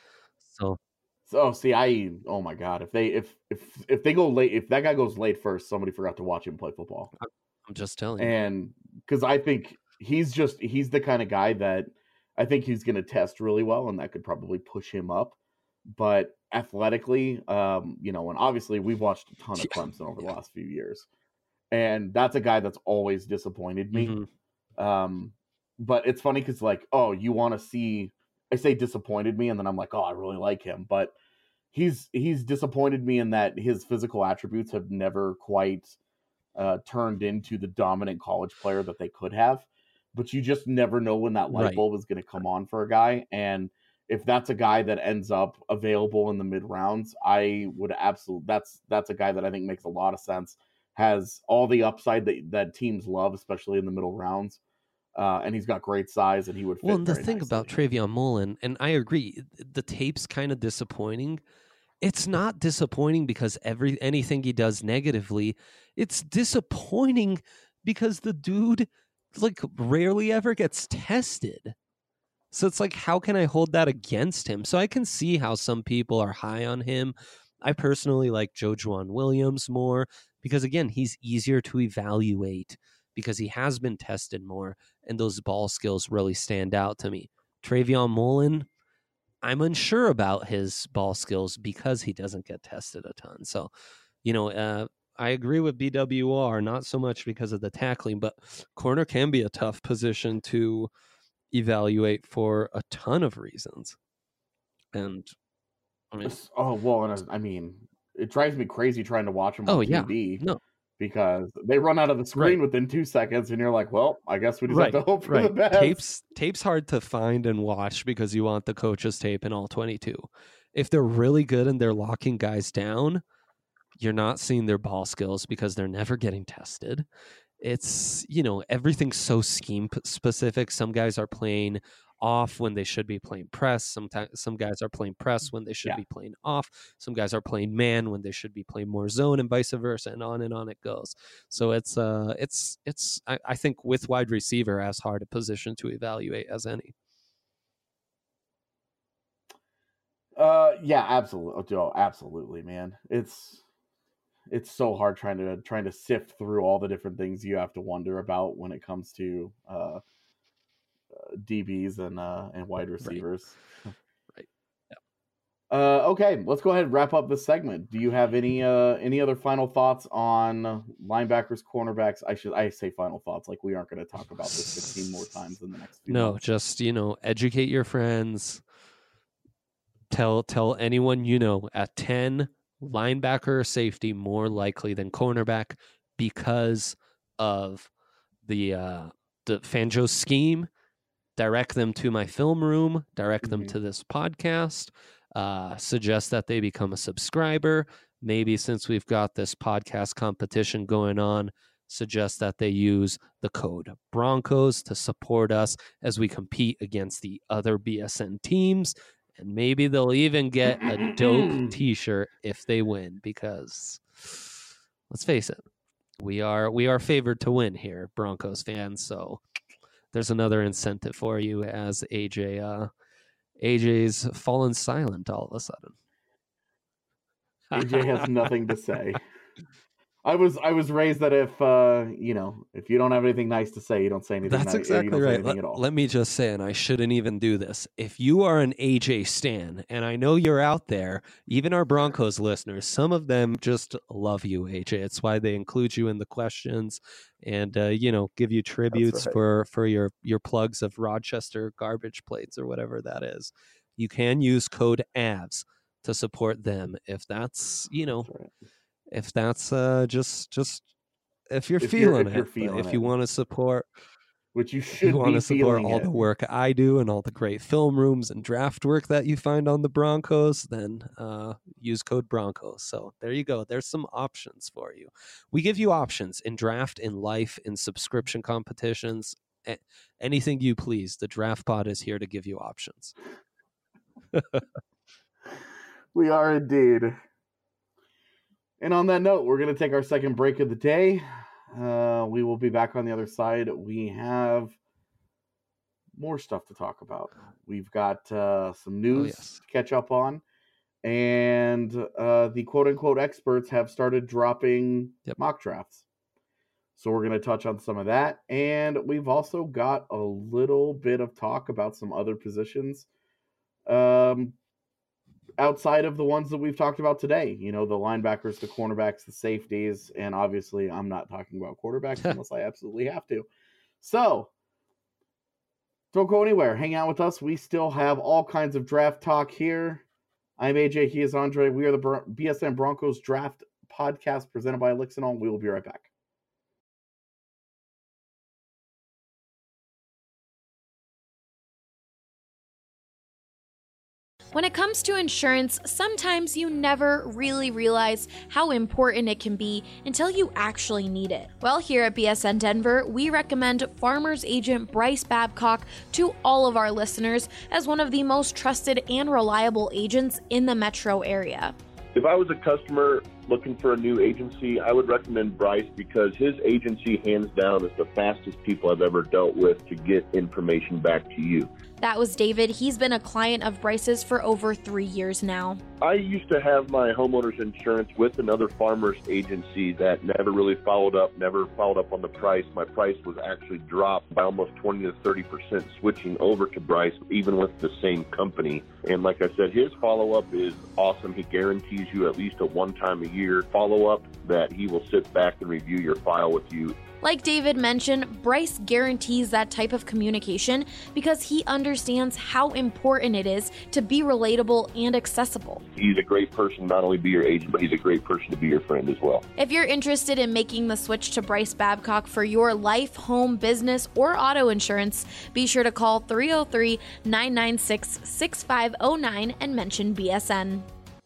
So, So see, I oh my god, if they if if if they go late, if that guy goes late first, somebody forgot to watch him play football. I'm just telling you. And because I think he's just he's the kind of guy that I think he's going to test really well, and that could probably push him up. But athletically, um, you know, and obviously we've watched a ton of Yeah. Clemson over the Yeah. last few years, and that's a guy that's always disappointed me. Mhm. Um, but it's funny because like, oh, you want to see, I say disappointed me, and then I'm like, oh, I really like him. But he's he's disappointed me in that his physical attributes have never quite uh, turned into the dominant college player that they could have. But you just never know when that light Right. bulb is going to come on for a guy. And if that's a guy that ends up available in the mid rounds, I would absolutely, that's, that's a guy that I think makes a lot of sense, has all the upside that, that teams love, especially in the middle rounds. Uh, and he's got great size, and he would fit Well, and the very thing nicely. about Travion Mullen, and I agree, the tape's kind of disappointing. It's not disappointing because every anything he does negatively. It's disappointing because the dude like rarely ever gets tested. So it's like, how can I hold that against him? So I can see how some people are high on him. I personally like Jojuan Williams more because, again, he's easier to evaluate because he has been tested more, and those ball skills really stand out to me. Travion Mullen, I'm unsure about his ball skills because he doesn't get tested a ton. So, you know, uh, I agree with B W R, not so much because of the tackling, but corner can be a tough position to evaluate for a ton of reasons. And I mean, oh, well, and I mean, it drives me crazy trying to watch him on oh yeah, T V. no, Because they run out of the screen Right. within two seconds, and you're like, well, I guess we just right, have to hope for the right. best. Tapes, tape's hard to find and watch because you want the coach's tape in all twenty-two. If they're really good and they're locking guys down, you're not seeing their ball skills because they're never getting tested. It's, you know, everything's so scheme p- specific. Some guys are playing off when they should be playing press. Sometimes some guys are playing press when they should Yeah. be playing off. Some guys are playing man when they should be playing more zone, and vice versa, and on and on it goes. So it's uh it's it's I, I think with wide receiver as hard a position to evaluate as any. Uh, yeah, absolutely. Oh, absolutely, man. It's it's so hard trying to trying to sift through all the different things you have to wonder about when it comes to uh, uh D Bs and uh and wide receivers. Right. Uh, okay, let's go ahead and wrap up this segment. Do you have any uh any other final thoughts on linebackers, cornerbacks? I should I say final thoughts, like we aren't going to talk about this fifteen more times in the next few No, months. just, you know, educate your friends. Tell tell anyone you know at ten, linebacker or safety more likely than cornerback because of the uh, the Fangio scheme. Direct them to my film room. Direct them Mhm. to this podcast. Uh, suggest that they become a subscriber. Maybe since we've got this podcast competition going on, suggest that they use the code Broncos to support us as we compete against the other B S N teams. And maybe they'll even get a dope t-shirt if they win, because let's face it, we are we are favored to win here, Broncos fans. So there's another incentive for you as A J uh, A J's fallen silent all of a sudden. A J has nothing to say. I was I was raised that if uh you know if you don't have anything nice to say, you don't say anything. That's ni- exactly you don't say right. anything Let, at all. let me just say, and I shouldn't even do this. If you are an A J stan, and I know you're out there, even our Broncos listeners, some of them just love you, A J. It's why they include you in the questions and uh, you know, give you tributes right. for for your your plugs of Rochester garbage plates or whatever that is. You can use code A V S to support them if that's you know That's right. if that's uh just just if you're If you're- feeling if you're it. But feeling if you it. want to support Which you if should you want be to support feeling all it. the work I do and all the great film rooms and draft work that you find on the Broncos, then uh, use code Broncos. So there you go. There's some options for you. We give you options in draft, in life, in subscription competitions, a- anything you please. The Draft Pod is here to give you options. We are indeed. And on that note, we're going to take our second break of the day. Uh, we will be back on the other side. We have more stuff to talk about. We've got uh, some news Oh, yes. to catch up on. And uh, the quote-unquote experts have started dropping Yep. mock drafts. So we're going to touch on some of that. And we've also got a little bit of talk about some other positions um, outside of the ones that we've talked about today. You know, the linebackers, the cornerbacks, the safeties, and obviously I'm not talking about quarterbacks unless I absolutely have to. So Don't go anywhere. Hang out with us. We still have all kinds of draft talk here. I'm A J. He is Andre. We are the Bron- B S N Broncos Draft Podcast presented by Elixinol. We will be right back. When it comes to insurance, sometimes you never really realize how important it can be until you actually need it. Well, here at B S N Denver, we recommend Farmers Agent Bryce Babcock to all of our listeners as one of the most trusted and reliable agents in the metro area. If I was a customer looking for a new agency, I would recommend Bryce because his agency, hands down, is the fastest people I've ever dealt with to get information back to you. That was David. He's been a client of Bryce's for over three years now. I used to have my homeowner's insurance with another farmer's agency that never really followed up, never followed up on the price. My price was actually dropped by almost twenty to thirty percent switching over to Bryce, even with the same company. And like I said, his follow-up is awesome. He guarantees you at least a one-time a year follow-up that he will sit back and review your file with you. Like David mentioned, Bryce guarantees that type of communication because he understands how important it is to be relatable and accessible. He's a great person, not only be your agent, but he's a great person to be your friend as well. If you're interested in making the switch to Bryce Babcock for your life, home, business, or auto insurance, be sure to call three oh three, nine nine six, six five oh nine and mention B S N.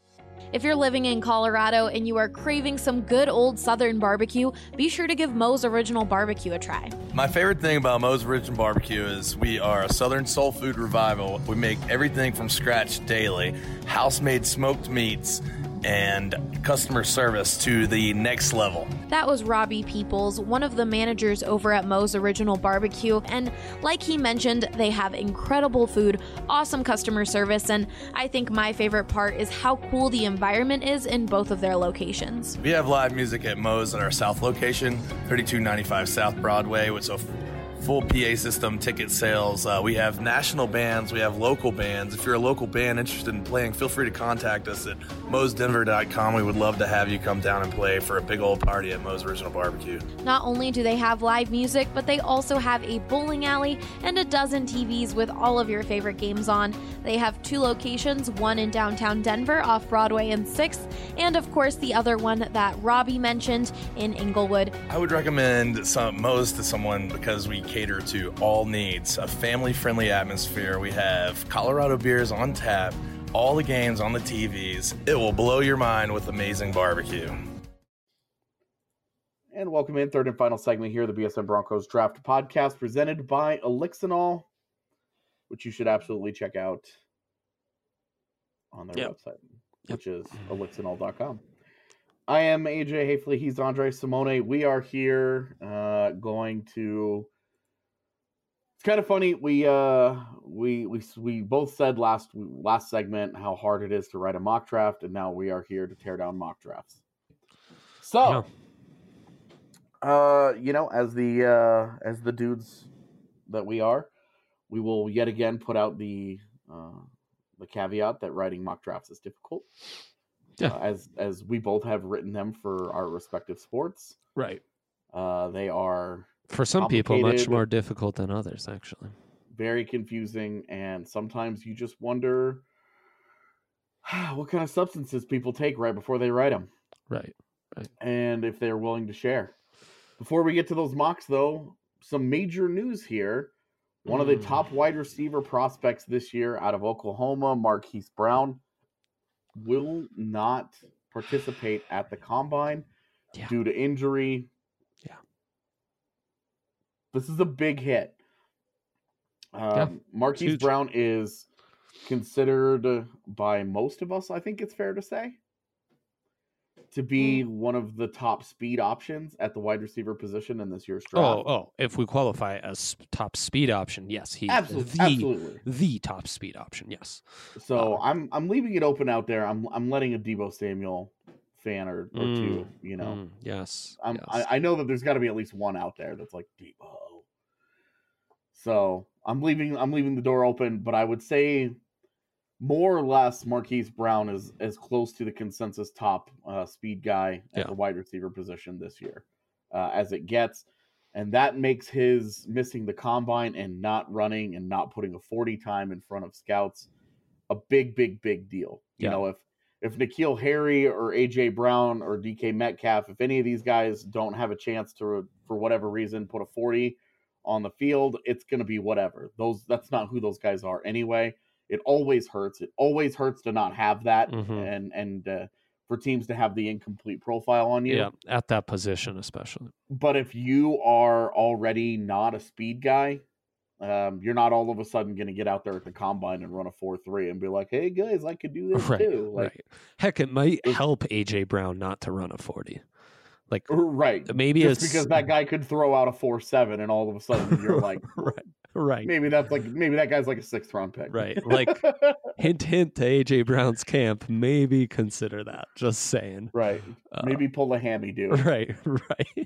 If you're living in Colorado and you are craving some good old Southern barbecue, be sure to give Moe's Original Barbecue a try. My favorite thing about Moe's Original Barbecue is we are a Southern soul food revival. We make everything from scratch daily, house-made smoked meats, and customer service to the next level. That was Robbie Peoples, one of the managers over at Moe's Original Barbecue, and like he mentioned, they have incredible food, awesome customer service, and I think my favorite part is how cool the environment is in both of their locations. We have live music at Moe's at our south location, thirty-two ninety-five South Broadway, with a full P A system, ticket sales. Uh, we have national bands. We have local bands. If you're a local band interested in playing, feel free to contact us at moes denver dot com. We would love to have you come down and play for a big old party at Moe's Original Barbecue. Not only do they have live music, but they also have a bowling alley and a dozen T Vs with all of your favorite games on. They have two locations, one in downtown Denver off Broadway and sixth, and of course the other one that Robbie mentioned in Inglewood. I would recommend some Moe's to someone because we cater to all needs, a family-friendly atmosphere. We have Colorado beers on tap, all the games on the T Vs. It will blow your mind with amazing barbecue. And welcome in, third and final segment here, the B S N Broncos Draft Podcast presented by Elixinol, which you should absolutely check out on their Yep. website, which is elixinol dot com. I am A J Hafley. He's Andre Simone. We are here uh, going to... It's kind of funny. We uh we we we both said last last segment how hard it is to write a mock draft, and now we are here to tear down mock drafts. So, yeah. uh, you know, as the uh, as the dudes that we are, we will yet again put out the uh, the caveat that writing mock drafts is difficult. Yeah, uh, as as we both have written them for our respective sports. Right. Uh, they are. For some people, much more difficult than others, actually. Very confusing, and sometimes you just wonder what kind of substances people take right before they write them. Right, right. And if they're willing to share. Before we get to those mocks, though, some major news here. One mm. of the top wide receiver prospects this year out of Oklahoma, Marquise Brown, will not participate at the Combine yeah. due to injury. This is a big hit. Um, yeah, Marquise Brown is considered by most of us, I think it's fair to say, to be mm. one of the top speed options at the wide receiver position in this year's draft. Oh, oh! If we qualify as top speed option, yes, he's absolutely, the, absolutely. the top speed option. Yes. So um, I'm I'm leaving it open out there. I'm I'm letting a Deebo Samuel fan or, or mm, two, you know. Mm, yes, I'm, yes. I, I know that there's got to be at least one out there that's like Deebo. So I'm leaving I'm leaving the door open, but I would say more or less Marquise Brown is as close to the consensus top uh, speed guy at yeah. the wide receiver position this year uh, as it gets. And that makes his missing the combine and not running and not putting a forty time in front of scouts a big, big, big deal. You Yeah. know, if if N'Keal Harry or A J Brown or D K Metcalf, if any of these guys don't have a chance to, for whatever reason, put a forty on the field, it's going to be whatever. Those That's not who those guys are anyway. It always hurts. It always hurts to not have that, Mhm. and and uh, for teams to have the incomplete profile on you. Yeah, at that position especially. But if you are already not a speed guy, um, you're not all of a sudden going to get out there at the combine and run a four three and be like, "Hey guys, I could do this Right, too." Like, right. Heck, it might help A J Brown not to run a forty. Like, right? maybe just it's because that guy could throw out a four seven, and all of a sudden you're like, right, right. maybe that's like maybe that guy's like a sixth round pick, Right. Like, hint, hint to A J Brown's camp. Maybe consider that. Just saying. Right. Uh, Maybe pull a hammy, dude. Right. Right.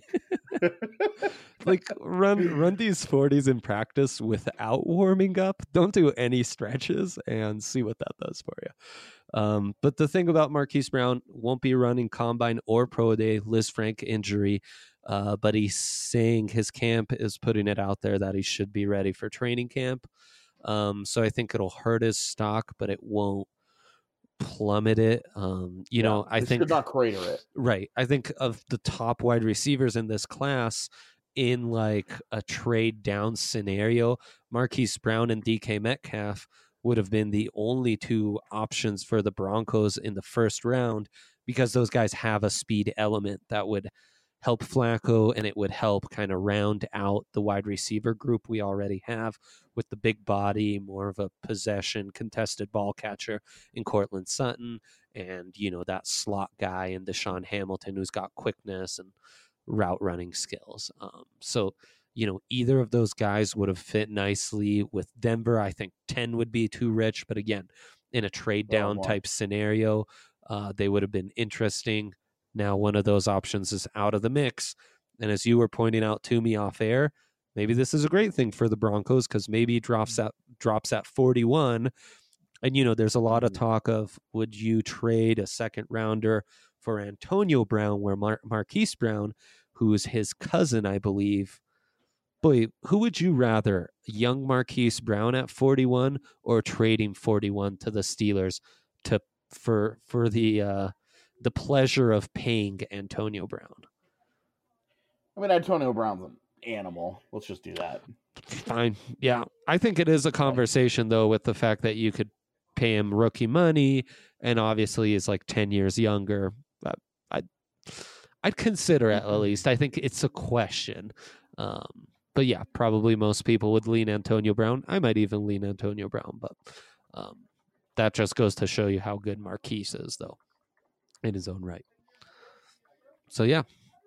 Like, run run these forties in practice without warming up. Don't do any stretches and see what that does for you. Um, but the thing about Marquise Brown, won't be running combine or pro day, Liz Frank injury. Uh, but he's saying his camp is putting it out there that he should be ready for training camp. Um, so I think it'll hurt his stock, but it won't plummet it. Um, you Yeah, know, I it think should not crater it. Right. I think of the top wide receivers in this class in like a trade down scenario, Marquise Brown and D K Metcalf would have been the only two options for the Broncos in the first round because those guys have a speed element that would help Flacco and it would help kind of round out the wide receiver group we already have with the big body, more of a possession contested ball catcher in Cortland Sutton and, you know, that slot guy in Deshaun Hamilton who's got quickness and route running skills. Um, so, you know, either of those guys would have fit nicely with Denver. I think ten would be too rich, but again, in a trade down wow. type scenario, uh, they would have been interesting. Now, one of those options is out of the mix. And as you were pointing out to me off air, maybe this is a great thing for the Broncos because maybe he drops at, drops at forty-one. And, you know, there's a lot of talk of would you trade a second rounder for Antonio Brown, where Mar- Marquise Brown, who is his cousin, I believe. Boy, who would you rather, young Marquise Brown at forty-one or trading forty-one to the Steelers to for for the uh, the pleasure of paying Antonio Brown? I mean, Antonio Brown's an animal. Let's just do that. Fine. Yeah. I think it is a conversation, though, with the fact that you could pay him rookie money and obviously is like ten years younger. But I'd, I'd consider it at least. I think it's a question. Um, but yeah, probably most people would lean Antonio Brown. I might even lean Antonio Brown, but um, that just goes to show you how good Marquise is, though, in his own right. So yeah.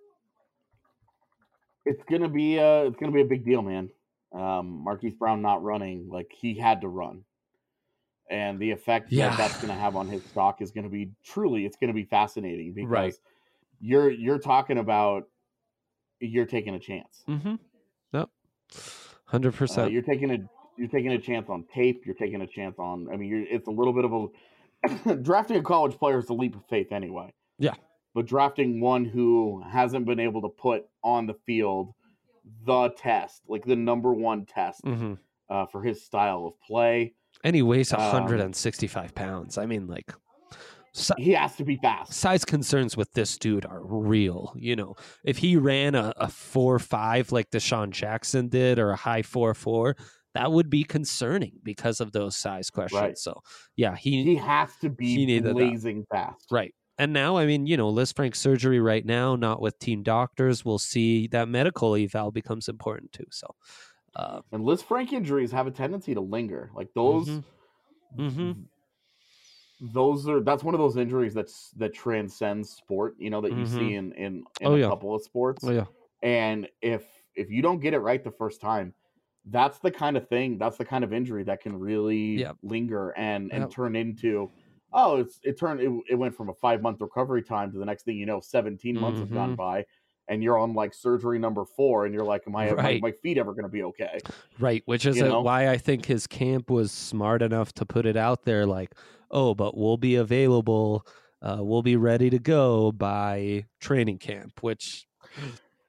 It's gonna be uh it's gonna be a big deal, man. Um, Marquise Brown not running, like he had to run, and the effect Yeah. that that's gonna have on his stock is gonna be truly, it's gonna be fascinating because Right. you're you're talking about you're taking a chance. Mm-hmm. Yep. Hundred Uh, percent. you're taking a you're taking a chance on tape. You're taking a chance on. I mean, you're, it's a little bit of a drafting a college player is a leap of faith anyway. Yeah. But drafting one who hasn't been able to put on the field the test, like the number one test Mm-hmm. uh, for his style of play. And he weighs Um, one hundred sixty-five pounds. I mean, like, si- He has to be fast. size concerns with this dude are real. You know, if he ran a, a four five like Deshaun Jackson did or a high four four, that would be concerning because of those size questions. Right. So, yeah, he, He has to he be needed that. blazing fast. Right. And now, I mean, you know, Liz Frank surgery right now, not with team doctors. We'll see that medical eval becomes important too. So, uh, And Liz Frank injuries have a tendency to linger. Like those, Mhm. Mm-hmm. those are that's one of those injuries that's that transcends sport. You know that you Mhm. see in in, in Oh, a yeah. couple of sports. Oh, yeah. And if if you don't get it right the first time, that's the kind of thing, that's the kind of injury that can really Yep. linger and and Yep. turn into, oh, it's it turned it, it went from a five month recovery time to the next thing you know, seventeen months have gone Mhm. by, and you're on like surgery number four, and you're like, am I Right. my, my feet ever going to be okay? Right, which is You uh, know? why I think his camp was smart enough to put it out there like, oh, but we'll be available, uh, we'll be ready to go by training camp, which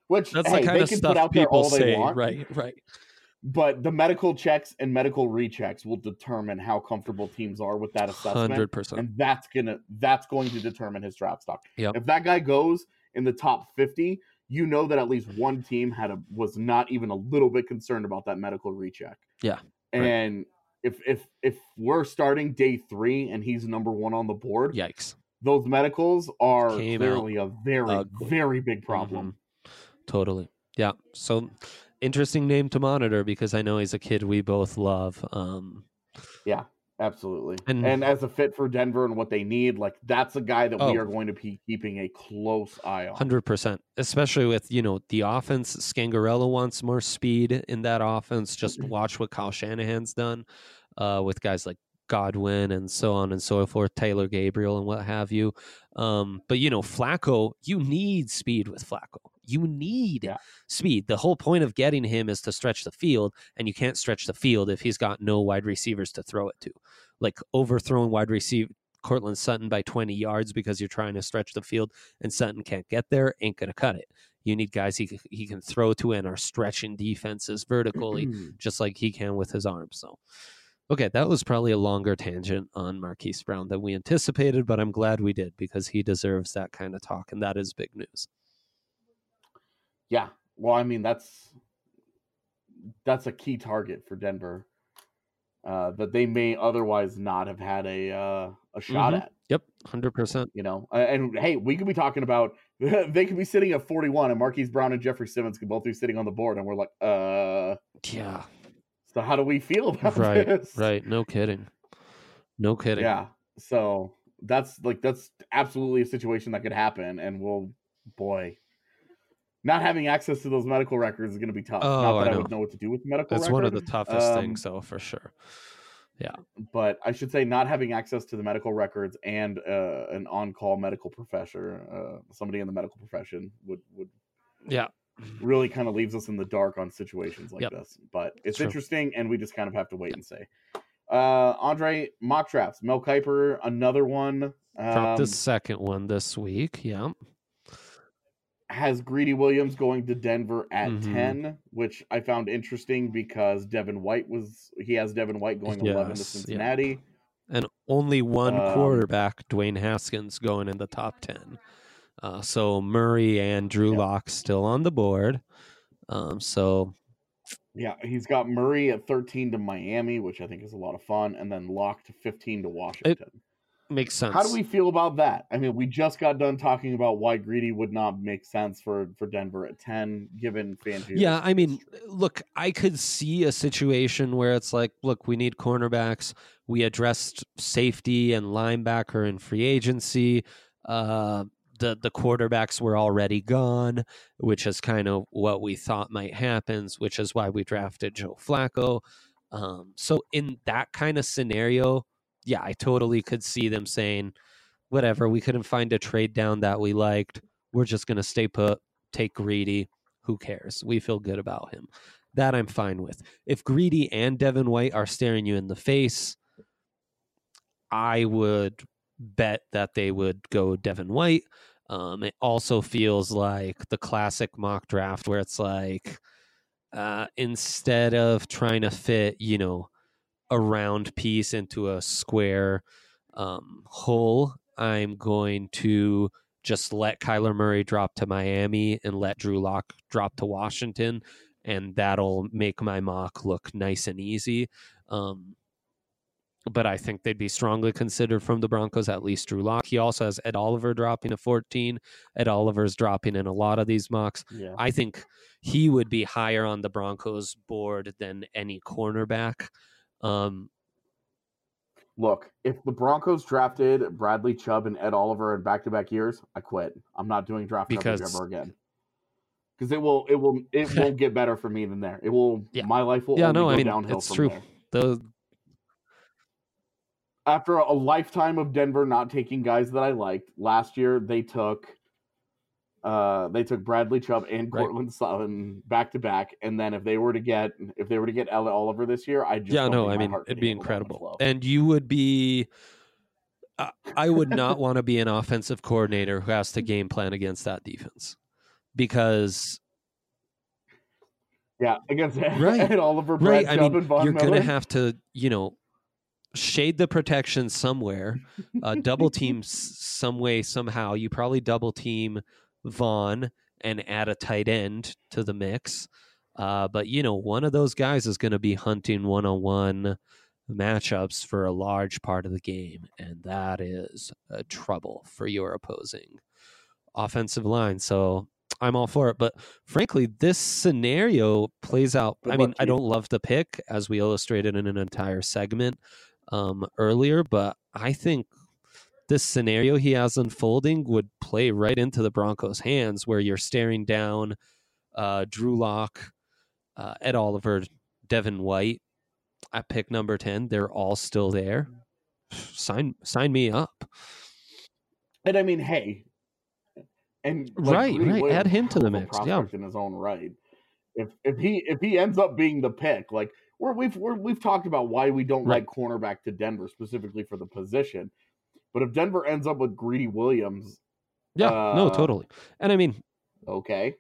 Which That's hey, the kind they of can stuff put out there people all they say. want. Right, right. But the medical checks and medical rechecks will determine how comfortable teams are with that assessment. one hundred percent. And that's gonna that's going to determine his draft stock. Yep. If that guy goes in the top fifty, you know that at least one team had a was not even a little bit concerned about that medical recheck. Yeah. And right. if if if we're starting day three and he's number one on the board, yikes. Those medicals are Came clearly out a very, ugly. very big problem. Mm-hmm. Totally. Yeah. So interesting name to monitor because I know he's a kid we both love. Um, yeah, absolutely. And, and as a fit for Denver and what they need, like that's a guy that oh, we are going to be keeping a close eye on. one hundred percent. Especially with, you know, the offense. Scangarello wants more speed in that offense. Just watch what Kyle Shanahan's done uh, with guys like Godwin and so on and so forth, Taylor Gabriel and what have you. Um, but, you know, Flacco, you need speed with Flacco. You need yeah. speed. The whole point of getting him is to stretch the field, and you can't stretch the field if he's got no wide receivers to throw it to. Like overthrowing wide receiver Cortland Sutton by twenty yards because you're trying to stretch the field and Sutton can't get there, ain't going to cut it. You need guys he, he can throw to and are stretching defenses vertically just like he can with his arms. So, okay, that was probably a longer tangent on Marquise Brown than we anticipated, but I'm glad we did because he deserves that kind of talk, and that is big news. Yeah, well, I mean, that's that's a key target for Denver uh, that they may otherwise not have had a uh, a shot mm-hmm. at. Yep, one hundred percent. You know, and hey, we could be talking about they could be sitting at forty-one, and Marquise Brown and Jeffrey Simmons could both be sitting on the board, and we're like, uh, yeah. So how do we feel about right, this? Right, no kidding, no kidding. Yeah, so that's like that's absolutely a situation that could happen, and we'll, boy. Not having access to those medical records is going to be tough. Oh, Not that I, I would know what to do with the medical That's record. one of the toughest um, things, though, for sure. Yeah. But I should say not having access to the medical records and uh, an on-call medical professor, uh, somebody in the medical profession would, would yeah, really kind of leaves us in the dark on situations like yep. this. But it's True. interesting, and we just kind of have to wait and see. Uh, Andre, mock drafts. Mel Kiper, another one. Um, Dropped the second one this week. Yeah. Has Greedy Williams going to Denver at mm-hmm. ten, which I found interesting because Devin White was he has Devin White going yes, eleven to Cincinnati. Yeah. And only one um, quarterback, Dwayne Haskins, going in the top ten. Uh, so Murray and Drew yeah. Lock still on the board. Um, so yeah, he's got Murray at thirteen to Miami, which I think is a lot of fun, and then Lock to fifteen to Washington. It makes sense. How do we feel about that? I mean, we just got done talking about why Greedy would not make sense for, for Denver at ten, given Fangio. Yeah, I mean, look, I could see a situation where it's like, look, we need cornerbacks. We addressed safety and linebacker in free agency. Uh, the the quarterbacks were already gone, which is kind of what we thought might happen, which is why we drafted Joe Flacco. Um, so in that kind of scenario, yeah, I totally could see them saying, whatever, we couldn't find a trade down that we liked. We're just going to stay put, take Greedy. Who cares? We feel good about him. That I'm fine with. If Greedy and Devin White are staring you in the face, I would bet that they would go Devin White. Um, it also feels like the classic mock draft where it's like, uh, instead of trying to fit, you know, a round piece into a square um, hole, I'm going to just let Kyler Murray drop to Miami and let Drew Lock drop to Washington, and that'll make my mock look nice and easy. Um, but I think they'd be strongly considered from the Broncos, at least Drew Lock. He also has Ed Oliver dropping to fourteen. Ed Oliver's dropping in a lot of these mocks. Yeah. I think he would be higher on the Broncos board than any cornerback. Um, Look, if the Broncos drafted Bradley Chubb and Ed Oliver in back-to-back years, I quit. I'm not doing draft because... coverage ever again. Because it will, it will, it won't get better for me than there. It will. Yeah. My life will yeah, only no, go I mean, downhill it's from true. there. The After a lifetime of Denver not taking guys that I liked, last year they took uh, they took Bradley Chubb and Right. Cortland Sutton back to back, and then if they were to get if they were to get Ed Oliver this year, I just yeah, don't no, think I my mean, heart could it'd be handle that much incredible, love. and you would be. I- I would not want to be an offensive coordinator who has to game plan against that defense, because Yeah, against Right. Ed Oliver, Brad Right. I Chubb, mean, and Von you're Miller. going to have to, you know, shade the protection somewhere, uh, double team s- some way, somehow. You probably double team Vaughn and add a tight end to the mix. Uh, but, you know, one of those guys is going to be hunting one-on-one matchups for a large part of the game, and that is uh, trouble for your opposing offensive line. So I'm all for it. But frankly, this scenario plays out. Good I luck, mean, I Chief. don't love the pick, as we illustrated in an entire segment um, earlier, but I think this scenario he has unfolding would play right into the Broncos' hands, where you're staring down uh, Drew Lock, uh, Ed Oliver, Devin White at pick number ten. They're all still there. Sign, sign me up. And I mean, hey, and like, Right, Greedy right. Williams Add is a him to hell the of a mix. Yeah. prospect in his own right. If if he if he ends up being the pick, like we're, we've we're, we've talked about why we don't Right. like cornerback to Denver specifically for the position, but if Denver ends up with Greedy Williams, Yeah, uh, no, totally. And I mean, okay,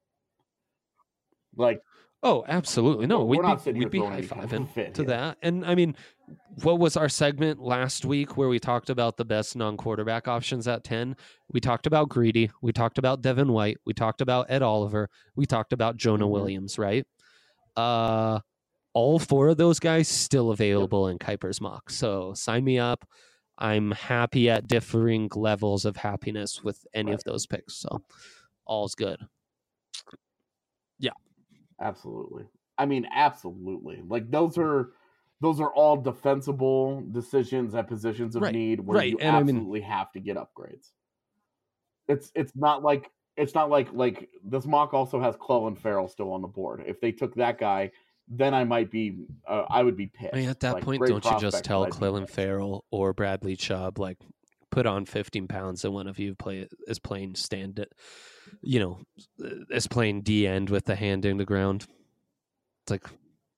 like oh, absolutely. No, we're we'd not be sitting we'd be here throwing high any kind of fiving fit to here. that. And I mean, what was our segment last week where we talked about the best non-quarterback options at ten? We talked about Greedy. We talked about Devin White. We talked about Ed Oliver. We talked about Jonah Mhm. Williams, right? Uh, all four of those guys still available in Kuiper's mock. So sign me up. I'm happy at differing levels of happiness with any Right. of those picks. So all's good. Yeah. Absolutely. I mean, absolutely. Like those are those are all defensible decisions at positions of Right, need where right, you and I mean- absolutely have to get upgrades. It's it's not like it's not like like this mock also has Clelin Ferrell still on the board. If they took that guy, then I might be uh, I would be pissed. I mean, at that Like, point, great don't you just prospect, tell but I'd be Clelin pissed. Ferrell or Bradley Chubb, like, put on fifteen pounds and one of you play is playing stand it, you know, is playing D end with the hand in the ground. It's like,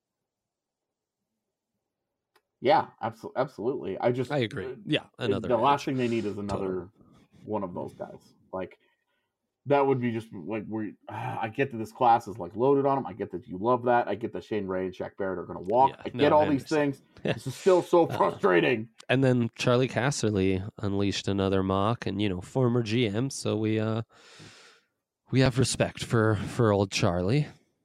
Yeah, absolutely, absolutely. I just I agree. Yeah, another The last edge. thing they need is another one of those guys. Like that would be just like we. I get that this class is like loaded on them. I get that you love that. I get that Shane Ray and Shaq Barrett are going to walk. Yeah, I no, get all I these understand. things. This is still so Uh, frustrating. And then Charlie Casserly unleashed another mock, and you know, former G M, so we uh we have respect for for old Charlie.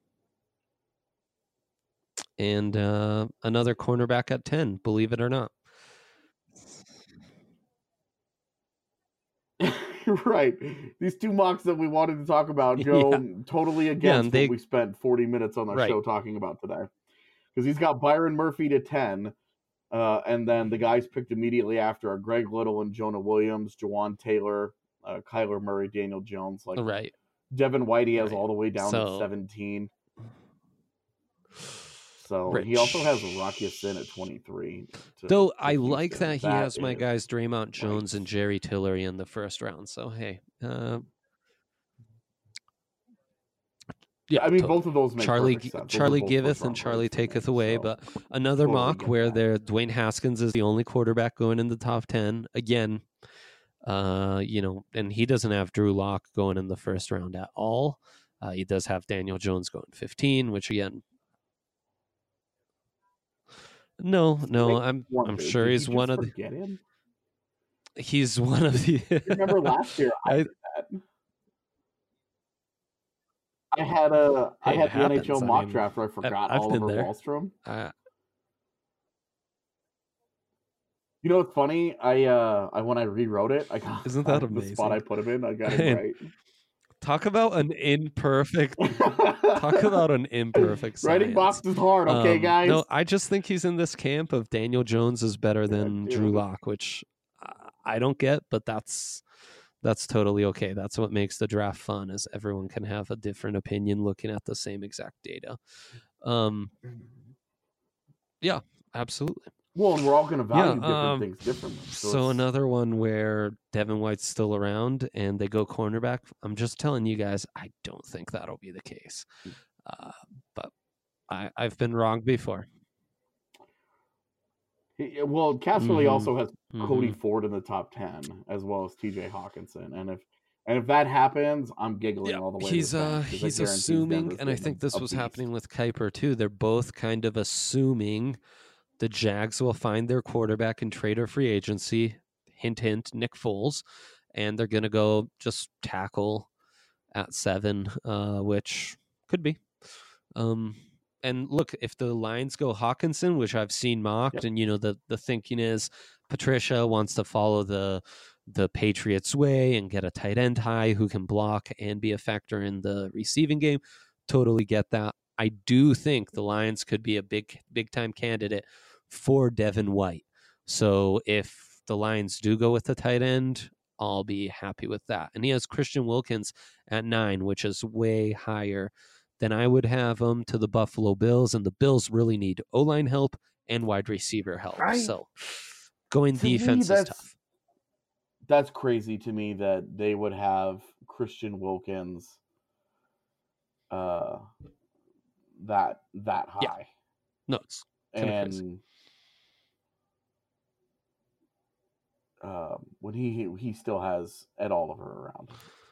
And uh another cornerback at ten, believe it or not. Right. These two mocks that we wanted to talk about go Yeah. totally Yeah, against and they- what we spent forty minutes on the Right. show talking about today. Because he's got Byron Murphy to ten, uh, and then the guys picked immediately after are Greg Little and Jonah Williams, Jawan Taylor, uh, Kyler Murray, Daniel Jones. Like Right. Devin White, he has Right. all the way down So- to seventeen. So he also has Rocky Sin at twenty-three. to- Though to I like Houston. that he has my is- guys Draymond Jones and Jerry Tillery in the first round. So hey, uh, yeah, I mean, totally. both of those make Charlie perfect sense. Those are Charlie both giveth first-round and Charlie picks for me, taketh away. so But another totally mock get where that. there Dwayne Haskins is the only quarterback going in the top ten again. Uh, you know, and he doesn't have Drew Lock going in the first round at all. Uh, he does have Daniel Jones going fifteen, which again. No, no, Wait, I'm one, I'm did sure you he's just one of the. forget him? He's one of the. Remember last year I, I- did that. I had a I Hey, had it the N H L happens. I mock mean, draft where I forgot I've been Oliver there. Wahlstrom. Uh, You know what's funny? I uh I when I rewrote it, I got Isn't that the spot I amazing? put him in. I got it Man, right. talk about an imperfect. Talk about an imperfect. Writing science. box is hard, okay, Um, guys. No, I just think he's in this camp of Daniel Jones is better than Drew dude. Lock, which uh, I don't get, but that's that's totally okay. That's what makes the draft fun, is everyone can have a different opinion looking at the same exact data. Um, yeah, absolutely. Well, and we're all going to value different um, things differently. So, So it's- another one where Devin White's still around and they go cornerback. I'm just telling you guys, I don't think that'll be the case. Uh, but I, I've been wrong before. he- well, Casserly Mhm. also has Cody Mhm. Ford in the top ten, as well as T J Hawkinson. And if And if that happens, I'm giggling Yeah, all the way. he's to the uh bank, 'cause I he's guarantee assuming, Denver's and I getting think a- this a was beast. happening with Kuiper too. They're both kind of assuming the Jags will find their quarterback in trade or free agency. Hint, hint, Nick Foles, and they're gonna go just tackle at seven, uh, which could be. Um, and look, if the Lions go Hawkinson, which I've seen mocked, Yep. and you know the the thinking is Patricia wants to follow the the Patriots way and get a tight end high who can block and be a factor in the receiving game. Totally get that. I do think the Lions could be a big big time candidate for Devin White. So if the Lions do go with the tight end, I'll be happy with that. And he has Christian Wilkins at nine, which is way higher than I would have him to the Buffalo Bills. And the Bills really need O-line help and wide receiver help. I- so going To me, defense is that's- tough. That's crazy to me that they would have Christian Wilkins uh, that that high. Yeah. No, it's kind of crazy. And um, when he he still has Ed Oliver around,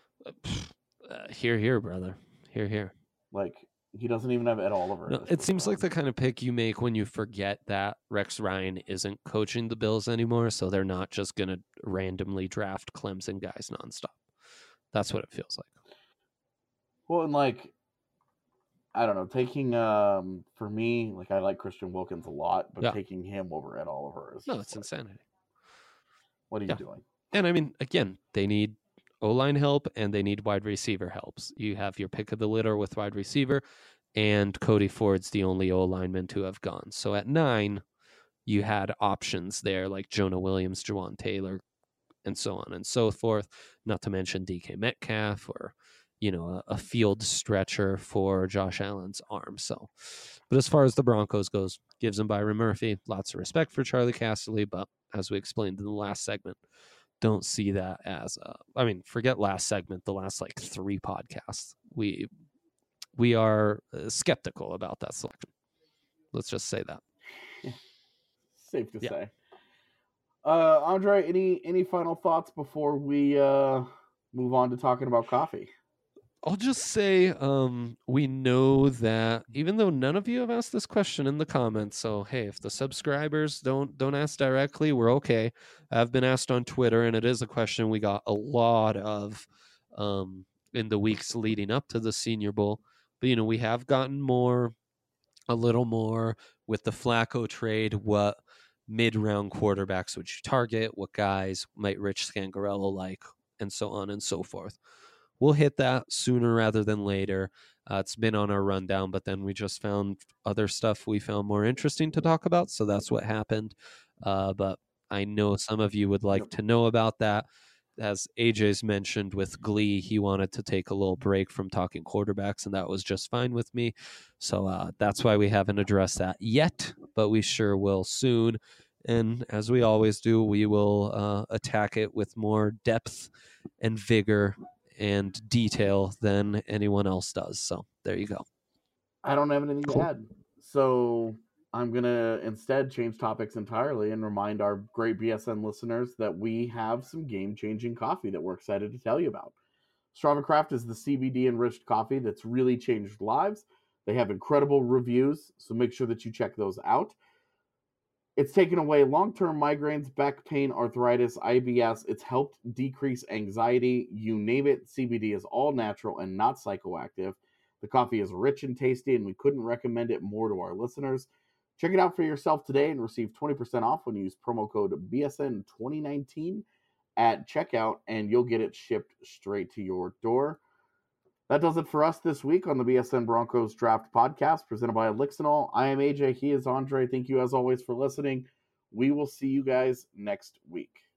Uh, here, here, brother. Here, here. like he doesn't even have Ed Oliver. No, at this it point seems like on. the kind of pick you make when you forget that Rex Ryan isn't coaching the Bills anymore, so they're not just going to randomly draft Clemson guys nonstop. That's what it feels like. Well, and like I don't know, taking um for me, like I like Christian Wilkins a lot, but Yeah. taking him over Ed Oliver is No, just it's like, insanity. what are you Yeah. doing? And I mean, again, they need O-line help and they need wide receiver helps. You have your pick of the litter with wide receiver, and Cody Ford's the only O-lineman to have gone. So at nine, you had options there like Jonah Williams, Jawan Taylor, and so on and so forth, not to mention D K Metcalf or, you know, a, a field stretcher for Josh Allen's arm. So, but as far as the Broncos goes, gives them Byron Murphy. Lots of respect for Charlie Casserly, but as we explained in the last segment, don't see that as a, I mean, forget last segment, the last like three podcasts. We we are uh, skeptical about that selection. Let's just say that. Safe to Yeah. say. Uh, Andre, any any final thoughts before we uh, move on to talking about coffee? I'll just say um, we know that even though none of you have asked this question in the comments, so hey, if the subscribers don't don't ask directly, we're okay. I've been asked on Twitter, and it is a question we got a lot of um, in the weeks leading up to the Senior Bowl. But you know, we have gotten more, a little more with the Flacco trade. What mid-round quarterbacks would you target? What guys might Rich Scangarello like, and so on and so forth. We'll hit that sooner rather than later. Uh, it's been on our rundown, but then we just found other stuff we found more interesting to talk about, so that's what happened. Uh, but I know some of you would like Yep. to know about that. As A J's mentioned with Glee, he wanted to take a little break from talking quarterbacks, and that was just fine with me. So uh, that's why we haven't addressed that yet, but we sure will soon. And as we always do, we will uh, attack it with more depth and vigor and detail than anyone else does. So there you go. I don't have anything Cool. to add. So I'm going to instead change topics entirely and remind our great B S N listeners that we have some game-changing coffee that we're excited to tell you about. Strava Craft is the C B D-enriched coffee that's really changed lives. They have incredible reviews, so make sure that you check those out. It's taken away long-term migraines, back pain, arthritis, I B S. It's helped decrease anxiety. You name it, C B D is all natural and not psychoactive. The coffee is rich and tasty, and we couldn't recommend it more to our listeners. Check it out for yourself today and receive twenty percent off when you use promo code B S N twenty nineteen at checkout, and you'll get it shipped straight to your door. That does it for us this week on the B S N Broncos Draft Podcast presented by Elixinol. I am A J. He is Andre. Thank you as always for listening. We will see you guys next week.